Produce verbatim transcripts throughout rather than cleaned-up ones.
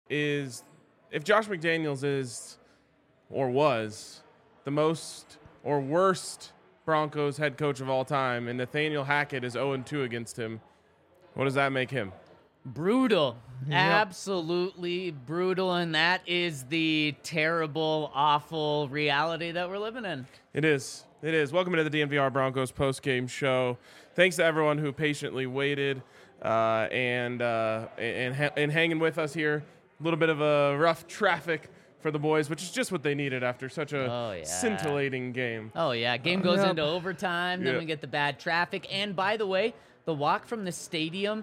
is if Josh McDaniels is or was the most or worst Broncos head coach of all time, and Nathaniel Hackett is oh and two against him, what does that make him? Brutal. Yep. Absolutely brutal. And that is the terrible, awful reality that we're living in. It is. It is. Welcome to the D N V R Broncos post-game show. Thanks to everyone who patiently waited uh, and, uh, and, and hanging with us here. A little bit of a rough traffic for the boys, which is just what they needed after such a Oh, yeah. scintillating game. Oh, yeah. Game goes Yep. into overtime. Then Yeah. we get the bad traffic. And by the way, the walk from the stadium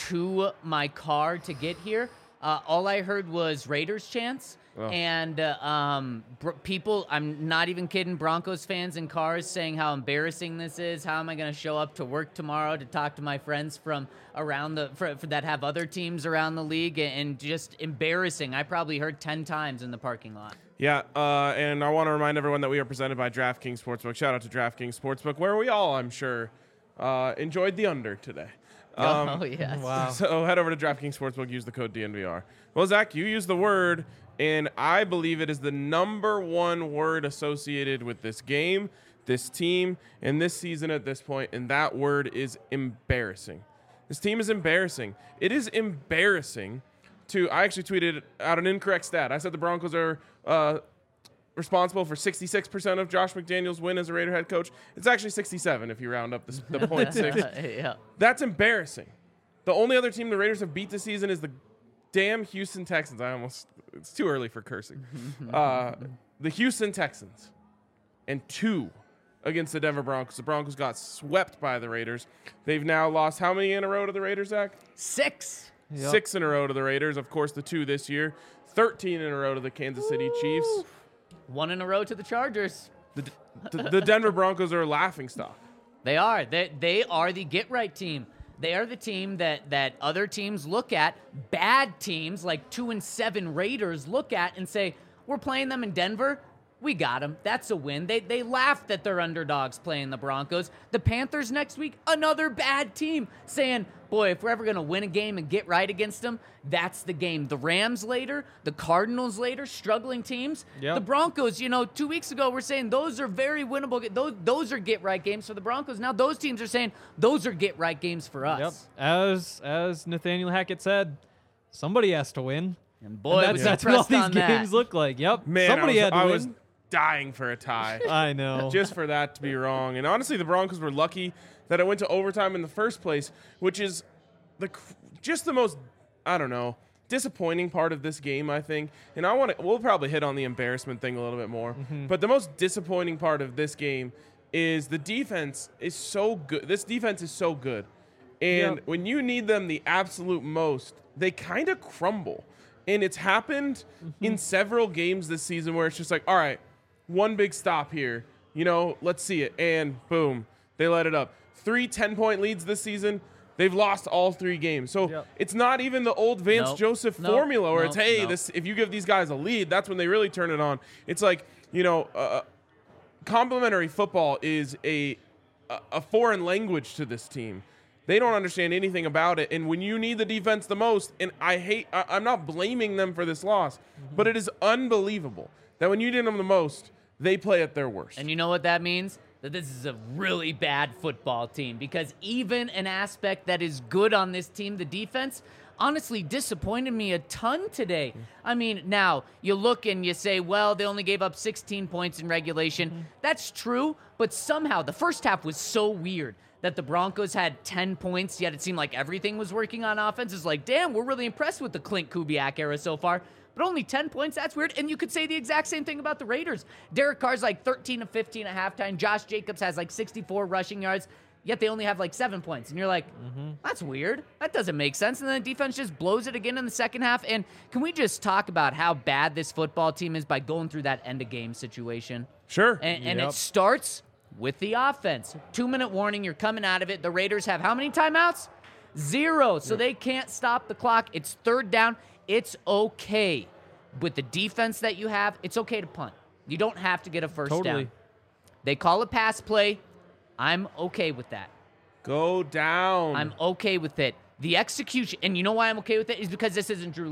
to my car to get here, uh, all I heard was Raiders chants. Oh. And uh, um, br- people, I'm not even kidding, Broncos fans in cars saying how embarrassing this is. How am I going to show up to work tomorrow to talk to my friends from around the for, for that have other teams around the league? And just embarrassing. I probably heard ten times in the parking lot. Yeah, uh, and I want to remind everyone that we are presented by DraftKings Sportsbook. Shout out to DraftKings Sportsbook, where we all, I'm sure, uh, enjoyed the under today. Um, oh, yes. Wow. So head over to DraftKings Sportsbook, use the code D N V R. Well, Zach, you used the word, and I believe it is the number one word associated with this game, this team, and this season at this point, and that word is embarrassing. This team is embarrassing. It is embarrassing to – I actually tweeted out an incorrect stat. I said the Broncos are uh, responsible for sixty-six percent of Josh McDaniels' win as a Raider head coach. It's actually sixty-seven if you round up the, the point six. yeah. That's embarrassing. The only other team the Raiders have beat this season is the damn Houston Texans. I almost, it's too early for cursing. Uh, the Houston Texans and two against the Denver Broncos. The Broncos got swept by the Raiders. They've now lost how many in a row to the Raiders, Zach? Six. Yep. Six in a row to the Raiders. Of course, the two this year. thirteen in a row to the Kansas City Chiefs. One in a row to the Chargers. The, the, the Denver Broncos are a laughingstock. They are. They, they are the get-right team. They are the team that, that other teams look at, bad teams like two and seven Raiders look at and say, we're playing them in Denver. We got them. That's a win. They they laugh that they're underdogs playing the Broncos. The Panthers next week, another bad team, saying, boy, if we're ever going to win a game and get right against them, that's the game. The Rams later, the Cardinals later, struggling teams. Yep. The Broncos, you know, two weeks ago we're saying those are very winnable. Those, those are get-right games for the Broncos. Now those teams are saying those are get-right games for us. Yep. As as Nathaniel Hackett said, somebody has to win. And boy, And was that's, he that's what all pressed these on games that. look like. Yep. Man, somebody I was, had to I win. was dying for a tie. I know. Just for that to be wrong. And honestly, the Broncos were lucky that it went to overtime in the first place, which is the just the most, I don't know, disappointing part of this game, I think. And I want to, we'll probably hit on the embarrassment thing a little bit more. Mm-hmm. But the most disappointing part of this game is the defense is so good. This defense is so good. And Yep. when you need them the absolute most, they kind of crumble. And it's happened Mm-hmm. in several games this season where it's just like, all right, one big stop here. You know, let's see it. And boom, they let it up. Three ten-point leads this season. They've lost all three games. So Yep. it's not even the old Vance Nope. Joseph Nope. formula where Nope. it's, hey, Nope. this if you give these guys a lead, that's when they really turn it on. It's like, you know, uh, complementary football is a, a a foreign language to this team. They don't understand anything about it. And when you need the defense the most, and I hate, I, I'm not blaming them for this loss, Mm-hmm. but it is unbelievable that when you need them the most, they play at their worst. And you know what that means? That this is a really bad football team, because even an aspect that is good on this team, the defense, honestly disappointed me a ton today. I mean, now you look and you say, well, they only gave up sixteen points in regulation. Mm-hmm. That's true, but somehow the first half was so weird that the Broncos had ten points, yet it seemed like everything was working on offense. It's like, damn, we're really impressed with the Clint Kubiak era so far. But only ten points, that's weird. And you could say the exact same thing about the Raiders. Derek Carr's like thirteen of fifteen at halftime. Josh Jacobs has like sixty-four rushing yards, yet they only have like seven points. And you're like, mm-hmm. that's weird. That doesn't make sense. And then the defense just blows it again in the second half. And can we just talk about how bad this football team is by going through that end-of-game situation? Sure. And, and Yep. it starts with the offense. Two-minute warning, you're coming out of it. The Raiders have how many timeouts? Zero. So they can't stop the clock. It's third down. It's okay. With the defense that you have, it's okay to punt. You don't have to get a first Totally. down. They call a pass play. I'm okay with that. Go down. I'm okay with it. The execution, and you know why I'm okay with it, is because this isn't Drew Lock.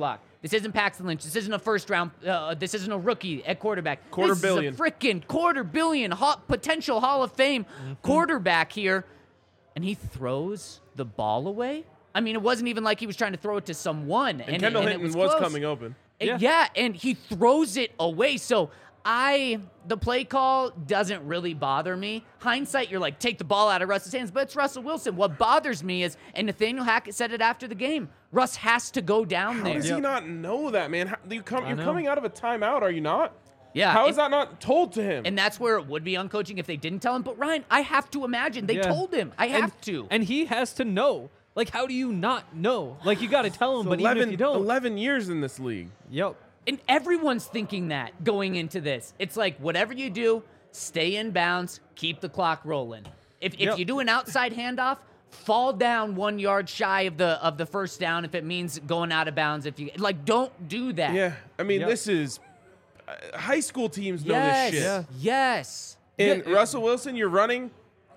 This isn't Paxton Lynch. This isn't a first round. Uh, this isn't a rookie at quarterback. Quarter this billion. is a freaking quarter billion ho- potential Hall of Fame mm-hmm. quarterback here. And he throws the ball away. I mean, it wasn't even like he was trying to throw it to someone. And, and Kendall and Hinton it was, was close. coming open. And, Yeah. yeah, and he throws it away. So I, the play call doesn't really bother me. Hindsight, you're like, take the ball out of Russ's hands, but it's Russell Wilson. What bothers me is, and Nathaniel Hackett said it after the game, Russ has to go down How there. does he not know that, man? How, you come, I you're know. coming out of a timeout, are you not? Yeah. How and, is that not told to him? And that's where it would be on coaching if they didn't tell him. But Ryan, I have to imagine they Yeah. told him. I have and, to. And he has to know. Like, how do you not know? Like, you got to tell him, but eleven, even if you don't. eleven years in this league. Yep. And everyone's thinking that going into this. It's like, whatever you do, stay in bounds, keep the clock rolling. If, if Yep. you do an outside handoff, fall down one yard shy of the of the first down if it means going out of bounds. If you like, don't do that. Yeah, I mean, Yep. this is uh, high school teams know Yes. this shit. Yeah. Yes. And Yeah, it- Russell Wilson, you're running.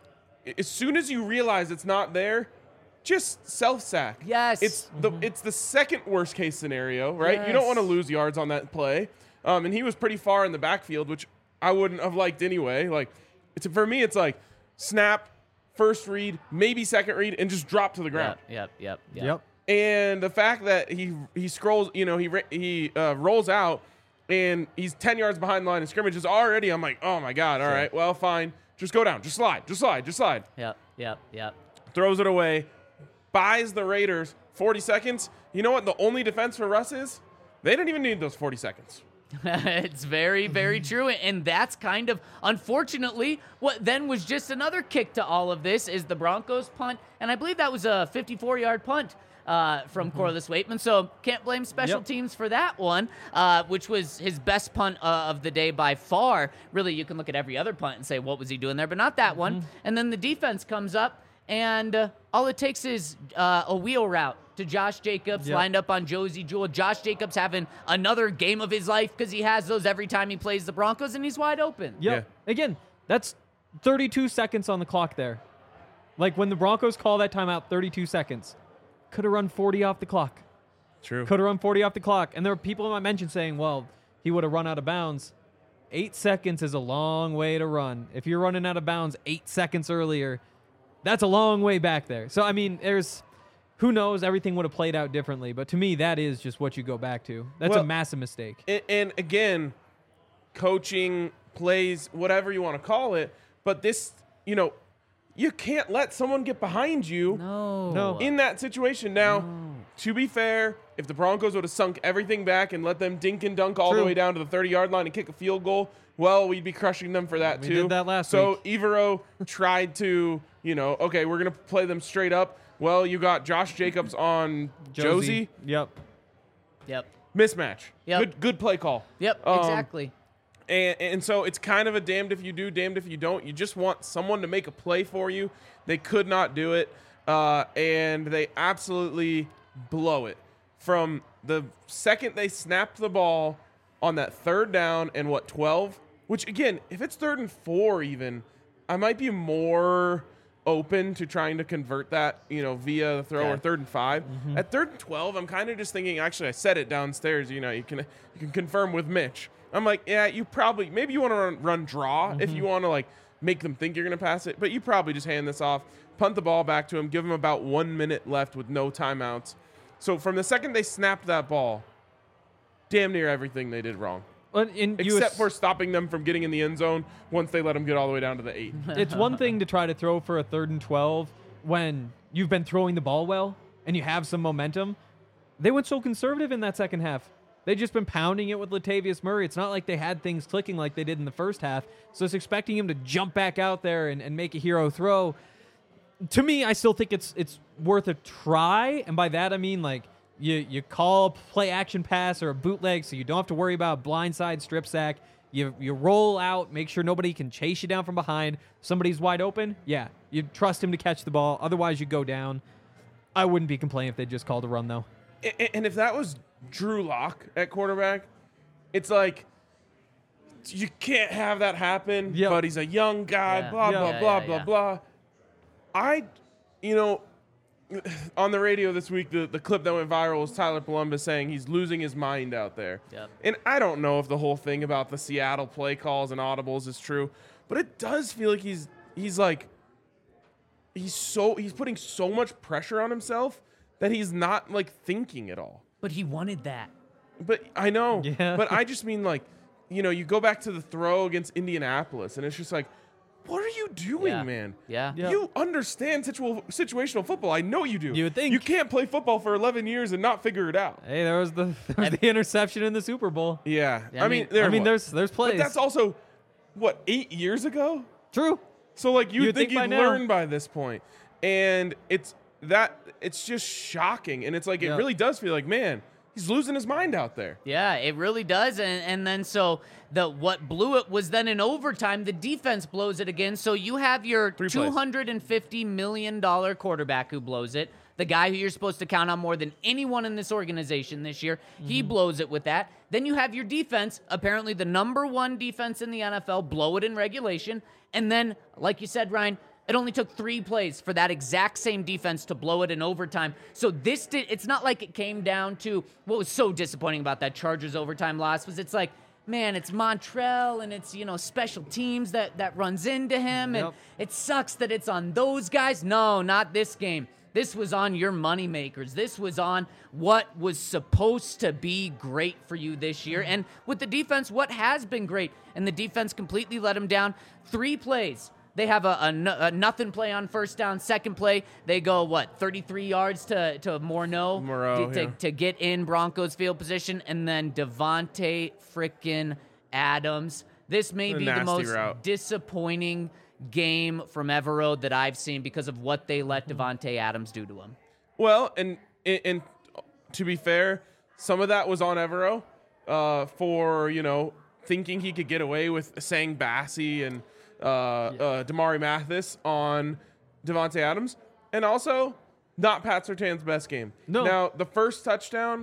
As soon as you realize it's not there, just self sack. Yes. It's the it's the second worst case scenario, right? You don't Yes. want to lose yards on that play. Um, and he was pretty far in the backfield, which I wouldn't have liked anyway. Like, it's for me, it's like snap, first read, maybe second read, and just drop to the ground. Yep. Yep. Yep. Yep. And the fact that he he scrolls, you know, he ra- he uh, rolls out, and he's ten yards behind the line of scrimmage is already. I'm like, oh my god, all Sure. right, well, fine, just go down, just slide, just slide, just slide. Yep. Yep. Yep. Throws it away, buys the Raiders forty seconds. You know what? The only defense for Russ is they didn't even need those forty seconds. It's very, very true. And that's kind of, unfortunately, what then was just another kick to all of this is the Broncos punt. And I believe that was a fifty-four-yard punt uh, from Corliss Waitman. So can't blame special Yep. teams for that one, uh, which was his best punt uh, of the day by far. Really, you can look at every other punt and say, what was he doing there? But not that one. And then the defense comes up, and uh, all it takes is uh, a wheel route to Josh Jacobs, Yep. lined up on Josie Jewell. Josh Jacobs having another game of his life because he has those every time he plays the Broncos, and he's wide open. Yep. Again, that's thirty-two seconds on the clock there. Like, when the Broncos call that timeout, thirty-two seconds. Could have run forty off the clock. True. Could have run forty off the clock. And there were people in my mention saying, well, he would have run out of bounds. Eight seconds is a long way to run. If you're running out of bounds eight seconds earlier, that's a long way back there. So, I mean, there's, who knows, everything would have played out differently. But to me, that is just what you go back to. That's Well, a massive mistake. And, and again, coaching, plays, whatever you want to call it, but this, you know, you can't let someone get behind you. No. No. In that situation. Now, to be fair, if the Broncos would have sunk everything back and let them dink and dunk all the True. way down to the thirty-yard line and kick a field goal, well, we'd be crushing them for that We too. did that last so week. Evero tried to, you know, okay, we're going to play them straight up. Well, you got Josh Jacobs on Josie. Yep. Yep. Mismatch. Yep. Good, good play call. Yep. Um, Exactly. And, and so it's kind of a damned if you do, damned if you don't. You just want someone to make a play for you. They could not do it, uh, and they absolutely blow it. From the second they snapped the ball on that third down and what, twelve? Which, again, if it's third and four even, I might be more open to trying to convert that, you know, via the throw Okay. or third and five. At third and twelve, I'm kind of just thinking, actually, I said it downstairs, you know, you can you can confirm with Mitch. I'm like, yeah, you probably, maybe you want to run, run draw if you want to, like, make them think you're going to pass it, but you probably just hand this off, punt the ball back to him, give him about one minute left with no timeouts. So from the second they snapped that ball, damn near everything they did wrong. And, and you Except ass- for stopping them from getting in the end zone once they let them get all the way down to the eight. it's one thing to try to throw for a third and twelve when you've been throwing the ball well and you have some momentum. They went so conservative in that second half. They've just been pounding it with Latavius Murray. It's not like they had things clicking like they did in the first half. So it's expecting him to jump back out there and, and make a hero throw. To me, I still think it's it's worth a try. And by that, I mean, like, you, you call a play action pass or a bootleg so you don't have to worry about blindside strip sack. You, you roll out, make sure nobody can chase you down from behind. Somebody's wide open. Yeah, you trust him to catch the ball. Otherwise, you go down. I wouldn't be complaining if they just called a run, though. A- And if that was Drew Lock at quarterback, it's like, you can't have that happen, Yep. but he's a young guy, Yeah. blah, Yeah. blah, Yeah, blah, yeah, blah, yeah. blah. I, you know, on the radio this week, the, the clip that went viral was Tyler Columbus saying he's losing his mind out there. Yep. And I don't know if the whole thing about the Seattle play calls and audibles is true, but it does feel like he's he's like he's so he's putting so much pressure on himself that he's not like thinking at all. But he wanted that. But I know. Yeah. But I just mean like, you know, you go back to the throw against Indianapolis, and it's just like, what are you doing, Yeah. man? Yeah. Yeah. You understand situa- situational football. I know you do. You would think. You can't play football for eleven years and not figure it out. Hey, there was the there was the interception in the Super Bowl. Yeah. Yeah, I I mean, mean- there I mean, was. there's there's But plays. that's also, what, eight years ago? True. So, like, you'd, You'd think, think by you'd now. learn by this point. And it's that, it's just shocking. And it's like, it Yeah. really does feel like, man, he's losing his mind out there. Yeah, it really does. And and then so the what blew it was then in overtime, the defense blows it again. So you have your Three plays. two hundred fifty million dollars quarterback who blows it. The guy who you're supposed to count on more than anyone in this organization this year, he blows it with that. Then you have your defense, apparently the number one defense in the N F L, blow it in regulation. And then, like you said, Ryan, it only took three plays for that exact same defense to blow it in overtime. So this did, it's not like it came down to what was so disappointing about that Chargers overtime loss was it's like, man, it's Montrell and it's, you know, special teams that, that runs into him. And Yep. it sucks that it's on those guys. No, not this game. This was on your moneymakers. This was on what was supposed to be great for you this year. And with the defense, what has been great. And the defense completely let him down. Three plays. They have a, a, no- a nothing play on first down. Second play, they go, what, thirty-three yards to, to Morneau, Moreau, to, to, yeah. to get in Broncos field position. And then Devontae frickin' Adams. This may A be the nasty most route. disappointing game from Everode that I've seen because of what they let Devontae Adams do to him. Well, and, and and to be fair, some of that was on Evero uh, for, you know, thinking he could get away with saying Bassey and uh, uh, Damari Mathis on Devontae Adams. And also, not Pat Surtain's best game. No. Now, the first touchdown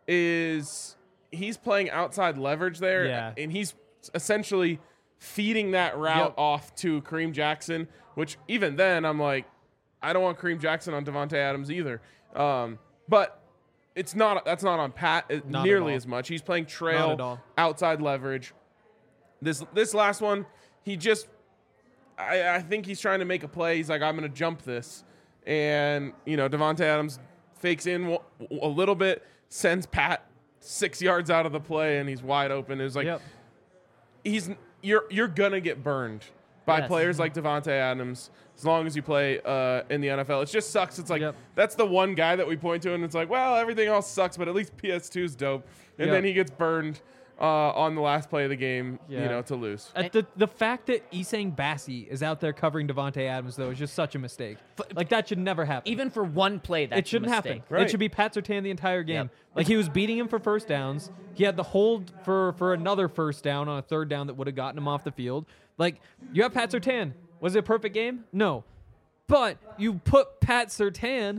is he's playing outside leverage there. Yeah. And he's essentially feeding that route Yep. off to Kareem Jackson, which even then I'm like, I don't want Kareem Jackson on Devontae Adams either. Um, but it's not that's not on Pat uh, Not at nearly all. as much. He's playing Not trail at all. outside leverage. This this last one, he just I, I think he's trying to make a play. He's like, I'm going to jump this. And, you know, Devontae Adams fakes in w- a little bit, sends Pat six yards out of the play, and he's wide open. It was like, Yep. he's you're you're going to get burned by Yes. players like Devontae Adams as long as you play uh, in the N F L. It just sucks. It's like, Yep. that's the one guy that we point to, and it's like, well, everything else sucks, but at least P S two is dope. And Yep. then he gets burned uh, on the last play of the game, you Yeah. know, to lose. At the the fact that Isang Bassey is out there covering Devontae Adams though is just such a mistake. Like that should never happen. Even for one play, that's it shouldn't a happen. mistake. Right. It should be Pat Surtain the entire game. Yep. Like he was beating him for first downs. He had the hold for for another first down on a third down that would have gotten him off the field. Like you have Pat Surtain. Was it a perfect game? No. But you put Pat Surtain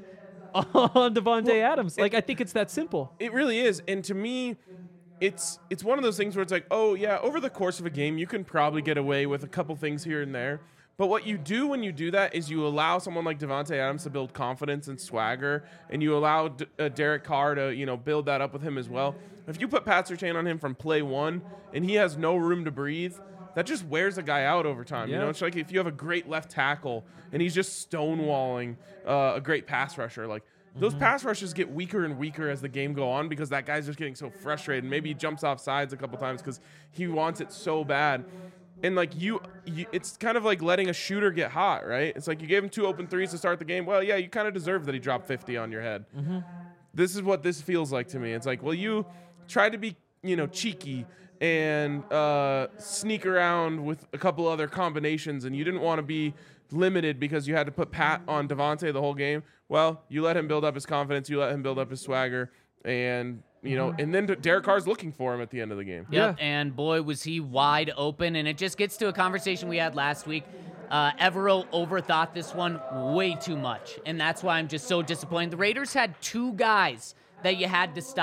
on Devontae Adams. Like I think it's that simple. It really is. And to me, it's it's one of those things where it's like, oh, yeah, over the course of a game, you can probably get away with a couple things here and there. But what you do when you do that is you allow someone like Devontae Adams to build confidence and swagger, and you allow D- uh, Derek Carr to, you know, build that up with him as well. If you put Pat Surtain on him from play one and he has no room to breathe, that just wears a guy out over time. You Yeah. know, it's like if you have a great left tackle and he's just stonewalling uh, a great pass rusher, like those pass rushes get weaker and weaker as the game go on because that guy's just getting so frustrated. Maybe he jumps off sides a couple times because he wants it so bad. And like you, you, it's kind of like letting a shooter get hot, right? It's like you gave him two open threes to start the game. Well, yeah, you kind of deserve that he dropped fifty on your head. This is what this feels like to me. It's like, well, you tried to be, you know, cheeky and uh, sneak around with a couple other combinations, and you didn't want to be limited because you had to put Pat on Devontae the whole game. Well, you let him build up his confidence, you let him build up his swagger, and you know, and then Derek Carr's looking for him at the end of the game. Yep, Yeah. and boy, was he wide open. And it just gets to a conversation we had last week. Uh, Evero overthought this one way too much, and that's why I'm just so disappointed. The Raiders had two guys that you had to stop.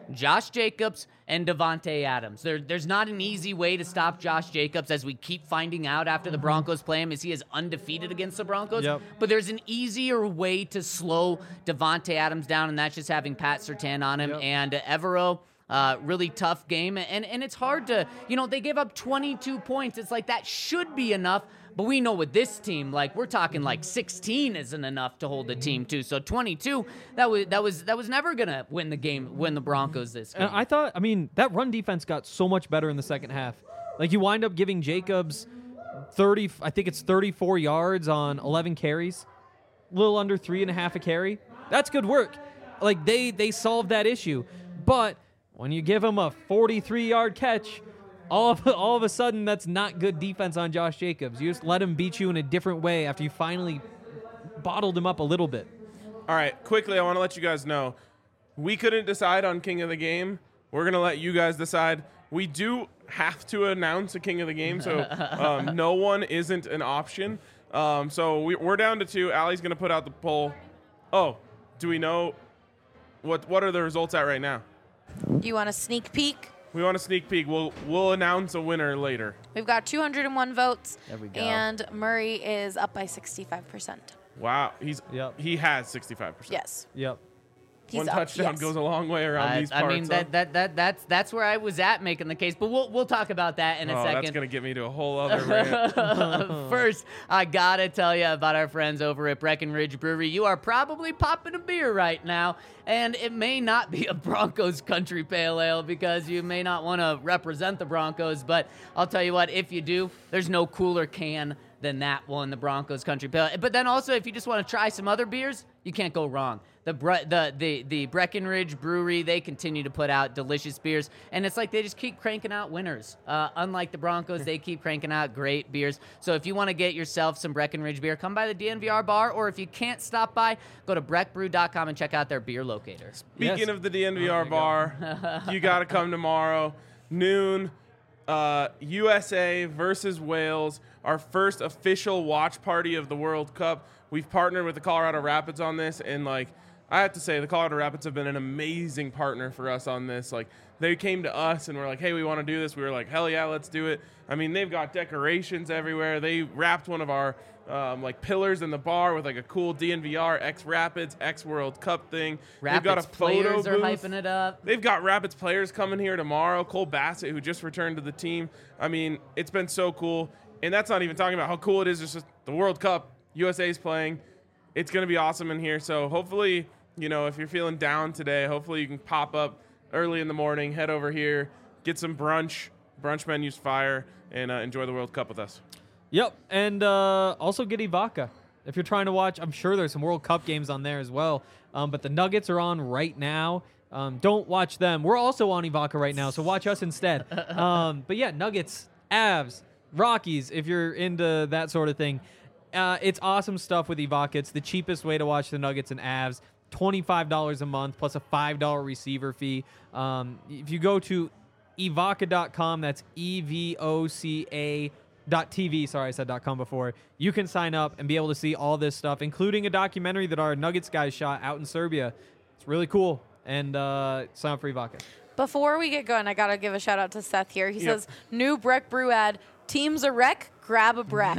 Josh Jacobs and Devontae Adams. There, there's not an easy way to stop Josh Jacobs, as we keep finding out after the Broncos play him, as he is undefeated against the Broncos. Yep. But there's an easier way to slow Devontae Adams down, and that's just having Pat Surtain on him. Yep. And uh, Evero, uh, really tough game. And, and it's hard to, you know, they gave up twenty-two points. It's like that should be enough. But we know with this team, like we're talking like sixteen isn't enough to hold a team to. So twenty-two, that was that was that was never gonna win the game, win the Broncos this game. And I thought, I mean, that run defense got so much better in the second half. Like you wind up giving Jacobs thirty, I think it's thirty-four yards on eleven carries, a little under three and a half a carry. That's good work. Like they they solved that issue. But when you give him a forty-three yard catch, all of all of a sudden that's not good defense on Josh Jacobs. You just let him beat you in a different way after you finally bottled him up a little bit. All right, quickly, I want to let you guys know, we couldn't decide on King of the Game. We're going to let you guys decide. We do have to announce a King of the Game, so um, no one isn't an option. Um, so we, we're down to two. Allie's going to put out the poll. Oh, do we know what what are the results at right now? You want a sneak peek? We want a sneak peek. We'll we'll announce a winner later. We've got two hundred one votes. There we go. And Murray is up by sixty-five percent. Wow, he's Yep. he has sixty-five percent. Yes. Yep. He's One up, touchdown yes. goes a long way around I, these I parts. mean huh? that, that that that's that's where I was at making the case, but we'll we'll talk about that in a oh, second. that's gonna get me to a whole other rant. First, I gotta tell you about our friends over at Breckenridge Brewery. You are probably popping a beer right now, and it may not be a Broncos Country Pale Ale because you may not want to represent the Broncos, but I'll tell you what, if you do, there's no cooler can than that one, the Broncos Country Pale. But then also, if you just want to try some other beers, you can't go wrong. The Bre- the the the Breckenridge Brewery, they continue to put out delicious beers, and it's like they just keep cranking out winners. Uh, unlike the Broncos, they keep cranking out great beers. So if you want to get yourself some Breckenridge beer, come by the D N V R bar, or if you can't stop by, go to breck brew dot com and check out their beer locator. Speaking Yes. of the D N V R Oh, there you go. bar, you got to come tomorrow, noon. Uh, U S A versus Wales, our first official watch party of the World Cup. We've partnered with the Colorado Rapids on this, and like I have to say, the Colorado Rapids have been an amazing partner for us on this. Like they came to us and were like, "Hey, we want to do this." We were like, "Hell yeah, let's do it." I mean, they've got decorations everywhere. They wrapped one of our um, like pillars in the bar with like a cool D N V R X Rapids X World Cup thing. Rapids they've got a photo players are booth. hyping it up. They've got Rapids players coming here tomorrow. Cole Bassett, who just returned to the team. I mean, it's been so cool. And that's not even talking about how cool it is. It's just the World Cup. U S A's playing. It's going to be awesome in here. So hopefully, you know, if you're feeling down today, hopefully you can pop up early in the morning, head over here, get some brunch. Brunch menu's fire, and uh, enjoy the World Cup with us. Yep, and uh, also get Ivaca. If you're trying to watch, I'm sure there's some World Cup games on there as well. Um, but the Nuggets are on right now. Um, don't watch them. We're also on Ivaca right now, so watch us instead. Um, but yeah, Nuggets, Avs, Rockies, if you're into that sort of thing. Uh, it's awesome stuff with Ivaca. It's the cheapest way to watch the Nuggets and Avs. twenty-five dollars a month plus a five dollars receiver fee. Um, if you go to evoca dot com, that's E V O C A dot T V, sorry, I said .com before, you can sign up and be able to see all this stuff, including a documentary that our Nuggets guys shot out in Serbia. It's really cool. And uh, sign up for Ivaca. Before we get going, I got to give a shout out to Seth here. He Yep. says, new Breck Brew ad, team's a wreck, grab a Breck.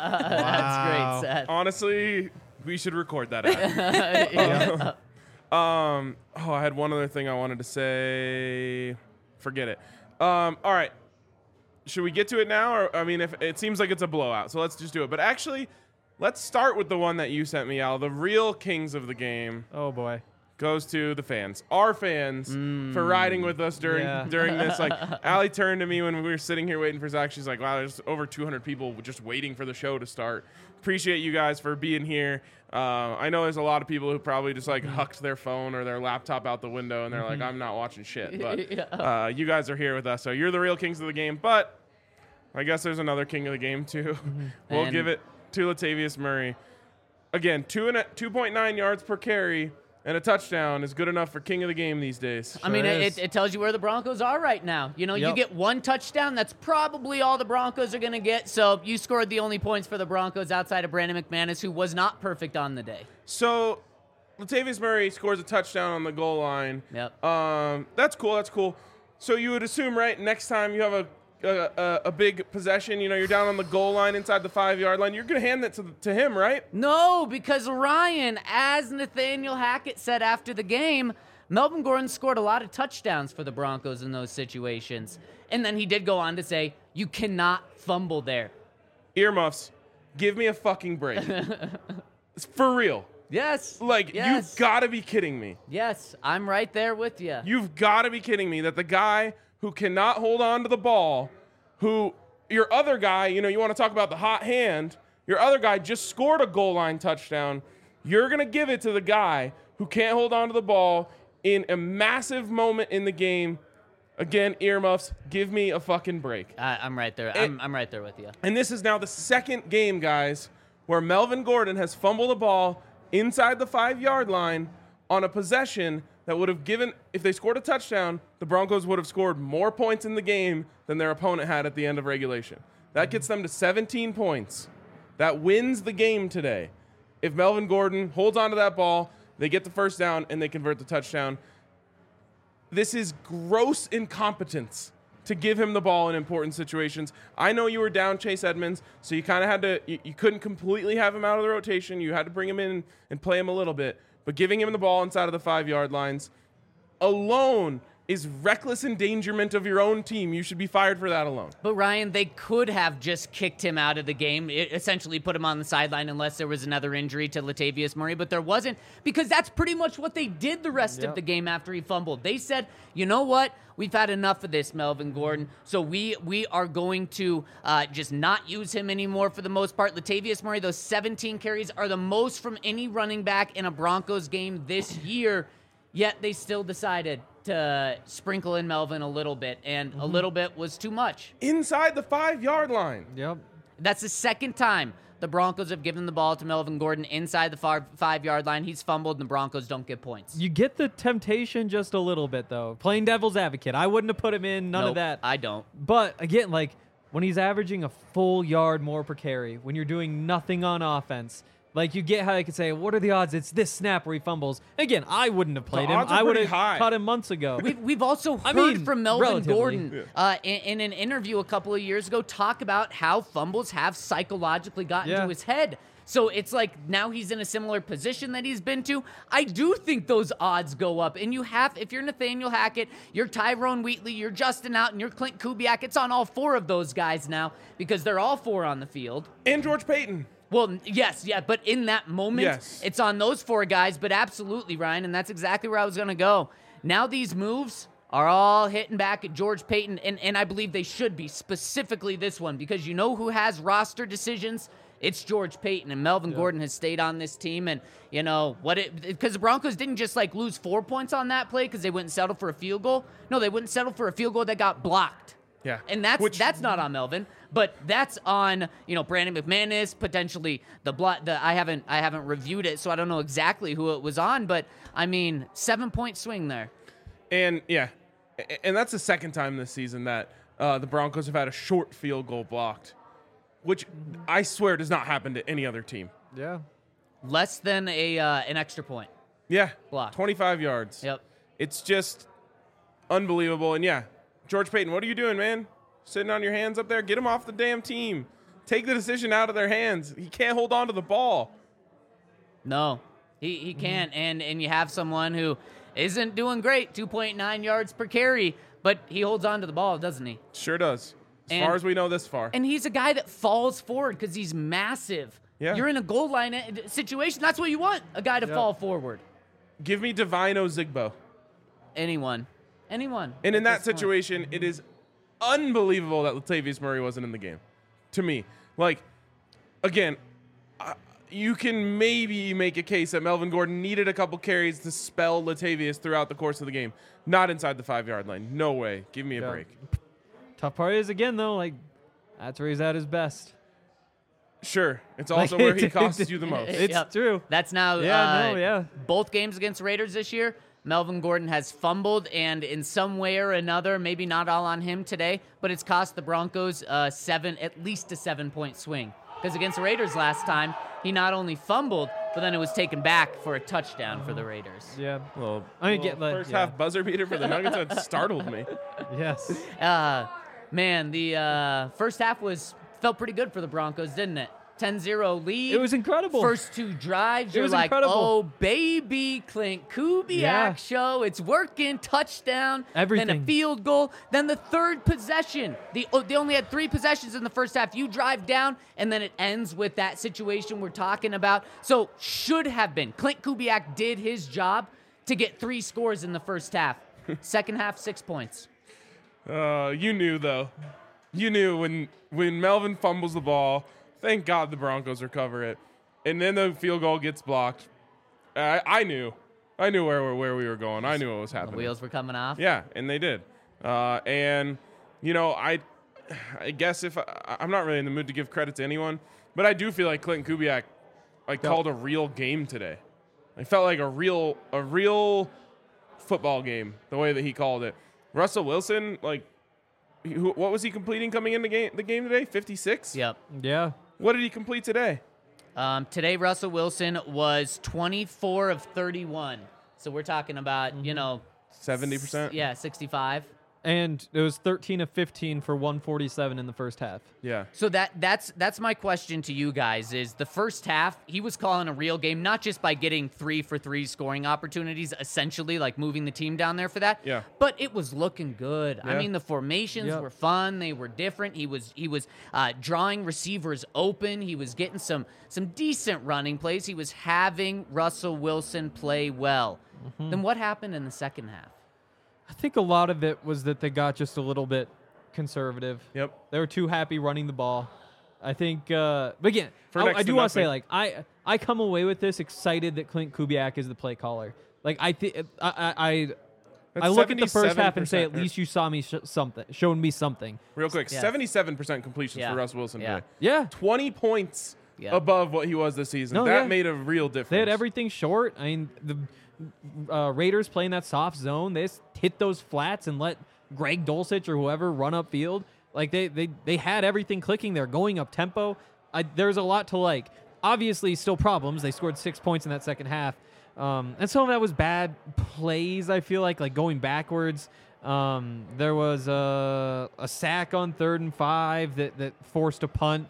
That's great, Seth. Honestly, we should record that ad. Um, oh, I had one other thing I wanted to say. Forget it. Um, all right. Should we get to it now? Or I mean, if it seems like it's a blowout, so let's just do it. But actually, let's start with the one that you sent me, Al. The real kings of the game Oh, boy. goes to the fans, our fans, for riding with us during Yeah. during this. Like, Allie turned to me when we were sitting here waiting for Zach. She's like, "Wow, there's over two hundred people just waiting for the show to start." Appreciate you guys for being here. Uh, I know there's a lot of people who probably just like hucked their phone or their laptop out the window and they're like, "I'm not watching shit." But Yeah. uh, you guys are here with us, so you're the real kings of the game. But I guess there's another king of the game too. We'll And- give it to Latavius Murray. Again, two and a, two point nine yards per carry. And a touchdown is good enough for king of the game these days. I mean, Sure it, is. it tells you where the Broncos are right now. You know, you Yep. get one touchdown, that's probably all the Broncos are going to get. So you scored the only points for the Broncos outside of Brandon McManus, who was not perfect on the day. So Latavius Murray scores a touchdown on the goal line. Yep. Um, that's cool. That's cool. So you would assume, right, next time you have a a, a, a big possession, you know, you're down on the goal line inside the five-yard line, you're going to hand that to, to him, right? No, because Ryan, as Nathaniel Hackett said after the game, Melvin Gordon scored a lot of touchdowns for the Broncos in those situations. And then he did go on to say, you cannot fumble there. Earmuffs, give me a fucking break. It's for real. Yes. Like, yes. you've got to be kidding me. Yes, I'm right there with you. You've got to be kidding me that the guy who cannot hold on to the ball, who your other guy, you know, you want to talk about the hot hand, your other guy just scored a goal line touchdown. You're going to give it to the guy who can't hold on to the ball in a massive moment in the game. Again, earmuffs, give me a fucking break. I, I'm right there. I'm, I'm right there with you. And this is now the second game, guys, where Melvin Gordon has fumbled a ball inside the five-yard line on a possession that would have given, if they scored a touchdown, the Broncos would have scored more points in the game than their opponent had at the end of regulation. That gets them to seventeen points. That wins the game today. If Melvin Gordon holds onto that ball, they get the first down, and they convert the touchdown. This is gross incompetence to give him the ball in important situations. I know you were down Chase Edmonds, so you kind of had to, you, you couldn't completely have him out of the rotation. You had to bring him in and play him a little bit. But giving him the ball inside of the five-yard lines alone is reckless endangerment of your own team. You should be fired for that alone. But Ryan, they could have just kicked him out of the game, it essentially put him on the sideline unless there was another injury to Latavius Murray, but there wasn't, because that's pretty much what they did the rest Yep. of the game after he fumbled. They said, you know what? We've had enough of this, Melvin Gordon, so we we are going to uh, just not use him anymore for the most part. Latavius Murray, those seventeen carries are the most from any running back in a Broncos game this year, yet they still decided to sprinkle in Melvin a little bit, and a little bit was too much. Inside the five-yard line. Yep. That's the second time the Broncos have given the ball to Melvin Gordon inside the five, five-yard line. He's fumbled, and the Broncos don't get points. You get the temptation just a little bit, though. Playing devil's advocate. I wouldn't have put him in, none Nope, of that. I don't. But, again, like, when he's averaging a full yard more per carry, when you're doing nothing on offense, like, you get how I could say, what are the odds it's this snap where he fumbles? Again, I wouldn't have played him. odds are I would pretty have high. caught him months ago. We've, we've also I heard mean, from Melvin relatively. Gordon Yeah. uh, in, in an interview a couple of years ago talk about how fumbles have psychologically gotten Yeah. to his head. So it's like now he's in a similar position that he's been to. I do think those odds go up. And you have, if you're Nathaniel Hackett, you're Tyrone Wheatley, you're Justin Out, and you're Clint Kubiak, it's on all four of those guys now because they're all four on the field. And George Payton. Well, yes, yeah, but in that moment, Yes. it's on those four guys, but absolutely, Ryan, and that's exactly where I was going to go. Now these moves are all hitting back at George Payton, and, and I believe they should be, specifically this one, because you know who has roster decisions? It's George Payton, and Melvin Gordon has stayed on this team, and, you know, what it, because the Broncos didn't just, like, lose four points on that play because they wouldn't settle for a field goal. No, they wouldn't settle for a field goal that got blocked. Yeah. And that's Which- that's not on Melvin, but that's on, you know, Brandon McManus, potentially the block. The I haven't I haven't reviewed it, so I don't know exactly who it was on, but I mean, seven point swing there. And, yeah, a- and that's the second time this season that uh, the Broncos have had a short field goal blocked, which I swear does not happen to any other team. Yeah. Less than a uh, an extra point. Yeah. Blocked. twenty-five yards. Yep. It's just unbelievable. And, yeah, George Payton, what are you doing, man? Sitting on your hands up there? Get him off the damn team. Take the decision out of their hands. He can't hold on to the ball. No, he he can't, and and you have someone who isn't doing great, two point nine yards per carry, but he holds on to the ball, doesn't he? Sure does. As And- far as we know this far. And he's a guy that falls forward because he's massive. Yeah. You're in a goal line uh, situation. That's what you want, a guy to Yep. fall forward. Give me Divine Ozigbo. Anyone. Anyone. And in at that this point. situation, it is unbelievable that Latavius Murray wasn't in the game. To me, like, again, uh, you can maybe make a case that Melvin Gordon needed a couple carries to spell Latavius throughout the course of the game. Not inside the five-yard line. No way. Give me a Yeah. break. Tough part is, again, though, like, that's where he's at his best. Sure. It's Like, also where he it- costs it- you the most. It's Yep. true. That's now Yeah, uh, no, yeah. both games against the Raiders this year. Melvin Gordon has fumbled, and in some way or another, maybe not all on him today, but it's cost the Broncos uh, seven, at least a seven-point swing. Because against the Raiders last time, he not only fumbled, but then it was taken back for a touchdown for the Raiders. Yeah. Well, I mean, well, get, like, first yeah. half buzzer beater for the Nuggets that startled me. Yes. Uh, man, the uh, first half was felt pretty good for the Broncos, didn't it? ten zero lead. It was incredible. First two drives, It you're was like, incredible. oh, baby, Clint Kubiak Yeah. show. It's working. Touchdown. Then a Everything. field goal. Then the third possession. The, oh, they only had three possessions in the first half. You drive down, and then it ends with that situation we're talking about. So should have been. Clint Kubiak did his job to get three scores in the first half. Second half, six points. Uh, you knew though. You knew when when Melvin fumbles the ball. Thank God the Broncos recover it, and then the field goal gets blocked. I, I knew, I knew where where we were going. I knew what was The happening. wheels were coming off. Yeah, and they did. Uh, and you know, I, I guess if I, I'm not really in the mood to give credit to anyone, but I do feel like Clinton Kubiak, like Yep. called a real game today. I felt like a real a real football game the way that he called it. Russell Wilson, like, he, who, what was he completing coming in the game the game today? fifty-six. Yep. Yeah. What did he complete today? Um, today, Russell Wilson was twenty-four of thirty-one. So we're talking about, you know, seventy percent. yeah, sixty-five. And it was thirteen of fifteen for one forty-seven in the first half. Yeah. So that that's that's my question to you guys is the first half, he was calling a real game, not just by getting three for three scoring opportunities, essentially like moving the team down there for that. Yeah. But it was looking good. I Yeah. mean, the formations Yep. were fun. They were different. He was he was uh, drawing receivers open. He was getting some some decent running plays. He was having Russell Wilson play well. Mm-hmm. Then what happened in the second half? I think a lot of it was that they got just a little bit conservative. Yep. They were too happy running the ball. I think, uh, but again, For I, next I to do want to say, nothing. like, I I come away with this excited that Clint Kubiak is the play caller. Like, I think I I, I, That's I look at the first half and say, at seventy-seven percent. least you saw me sh- something, shown me something. Real quick, Yes. seventy-seven percent completions Yeah. for Russ Wilson Yeah. today. Yeah, twenty points Yeah. above what he was this season. No, that yeah. made a real difference. they had everything short. I mean, the uh, Raiders playing that soft zone, they just hit those flats and let Greg Dulcich or whoever run upfield. Like they they they had everything clicking. They're going up tempo. I, there's a lot to like. Obviously, still problems. They scored six points in that second half, um, and some of that was bad plays. I feel like like going backwards. Um, there was a, a sack on third and five that that forced a punt.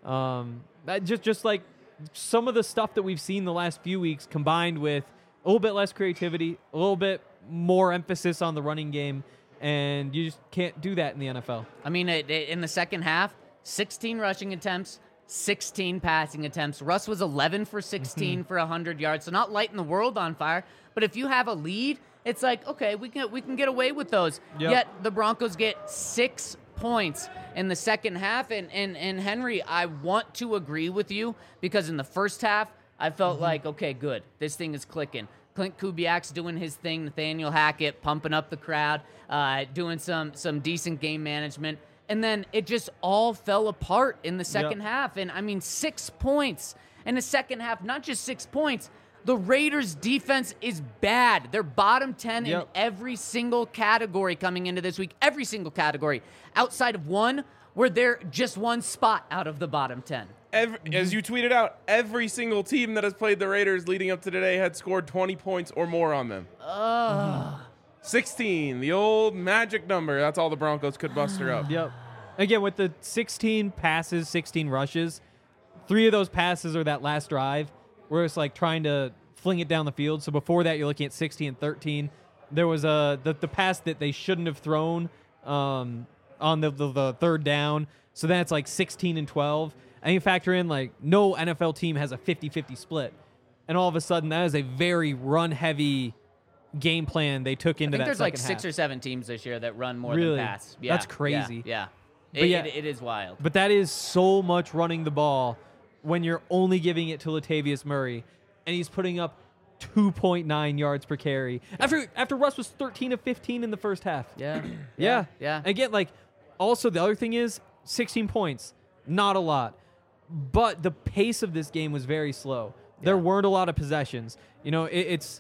Um, that just just like some of the stuff that we've seen the last few weeks, combined with a little bit less creativity, a little bit more emphasis on the running game, and you just can't do that in the N F L. I mean, it, it- in the second half, sixteen rushing attempts, sixteen passing attempts. Russ was eleven for sixteen for one hundred yards, so not lighting the world on fire. But if you have a lead, it's like, okay, we can we can get away with those. Yep. Yet the Broncos get six points in the second half. And, and, and Henry, I want to agree with you because in the first half, I felt like, okay, good. This thing is clicking. Clint Kubiak's doing his thing. Nathaniel Hackett pumping up the crowd, uh, doing some some decent game management. And then it just all fell apart in the second Yep. half. And, I mean, six points in the second half, not just six points. The Raiders' defense is bad. They're bottom ten in Yep. every single category coming into this week. Every single category. Outside of one, where they're just one spot out of the bottom ten. Every, as you tweeted out, every single team that has played the Raiders leading up to today had scored twenty points or more on them. Ugh. sixteen, the old magic number. That's all the Broncos could muster up. Yep. Again, with the sixteen passes, sixteen rushes, three of those passes are that last drive where it's like trying to fling it down the field. So before that, you're looking at sixteen and thirteen. There was a the, the pass that they shouldn't have thrown um, on the, the the third down. So then it's like sixteen and twelve. And you factor in like no N F L team has a fifty-fifty split. And all of a sudden, that is a very run-heavy game plan they took I into think that there's like second six half. or seven teams this year that run more Really? than pass. Yeah, That's crazy. Yeah. yeah. But It, yeah. it, it is wild. But that is so much running the ball when you're only giving it to Latavius Murray, and he's putting up two point nine yards per carry. After after Russ was thirteen of fifteen in the first half. Yeah. Yeah. Yeah. Again, like, also the other thing is sixteen points, not a lot. But the pace of this game was very slow. There Yeah. weren't a lot of possessions. You know, it, it's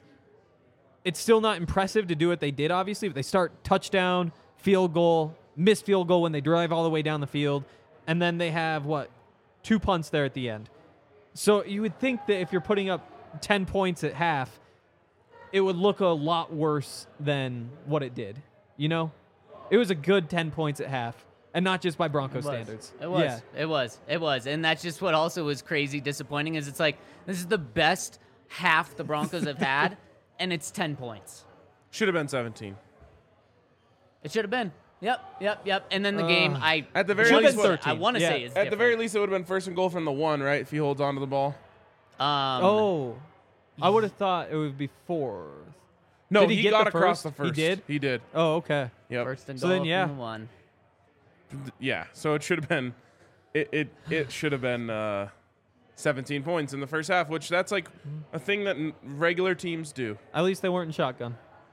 it's still not impressive to do what they did, obviously, but they start touchdown, field goal, missed field goal when they drive all the way down the field, and then they have, what, two punts there at the end. So you would think that if you're putting up ten points at half, it would look a lot worse than what it did. You know? It was a good ten points at half, and not just by Broncos It was. standards. It was. Yeah. It was. It was. And that's just what also was crazy disappointing is it's like this is the best half the Broncos have had, and it's ten points. Should have been seventeen. It should have been. Yep, yep, yep. And then the game, Uh, I At the very Should've least, been what- thirteen. I want to Yeah. say is at the very least, it would have been first and goal from the one, right? If he holds on to the ball. Um, Oh, I would have thought it would be fourth. No, Did he he, get got the across first? the He first. did? He did. Oh, okay. Yep. first and So goal then, yeah. from the one. Yeah. So it should have been. It it it should have been uh, seventeen points in the first half, which that's like a thing that n- regular teams do. At least they weren't in shotgun.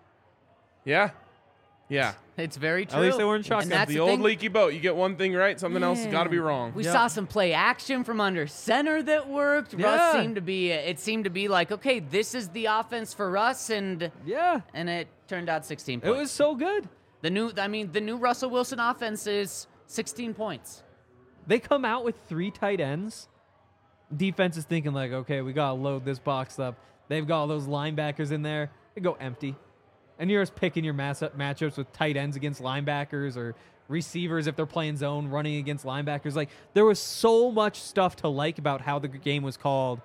Yeah. Yeah. It's very true. At least they weren't And shotgun. that's the the old thing. leaky boat. You get one thing right, something else has got to be wrong. We Yeah. saw some play action from under center that worked. Yeah. Russ seemed to be. It seemed to be like, okay, this is the offense for Russ, and Yeah. and it turned out sixteen It points. was so good. the new. I mean, the new Russell Wilson offense is sixteen points. They come out with three tight ends. Defense is thinking like, okay, we gotta load this box up. They've got all those linebackers in there. They go empty, and you're just picking your mass matchups with tight ends against linebackers or receivers if they're playing zone, running against linebackers. Like there was so much stuff to like about how the game was called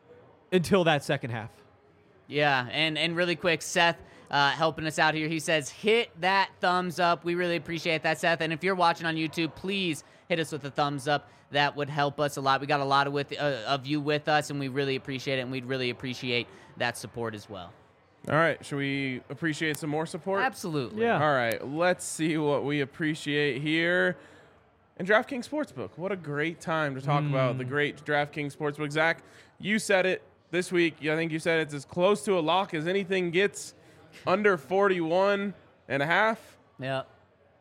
until that second half. Yeah, and and really quick, Seth uh, helping us out here. He says, hit that thumbs up. We really appreciate that, Seth. And if you're watching on YouTube, please hit us with a thumbs up. That would help us a lot. We got a lot of with uh, of you with us, and we really appreciate it, and we'd really appreciate that support as well. All right. Should we appreciate some more support? Absolutely. Yeah. All right. Let's see what we appreciate here. And DraftKings Sportsbook. What a great time to talk about the great DraftKings Sportsbook. Zach, you said it this week. I think you said it's as close to a lock as anything gets. Under forty-one and a half. Yeah. It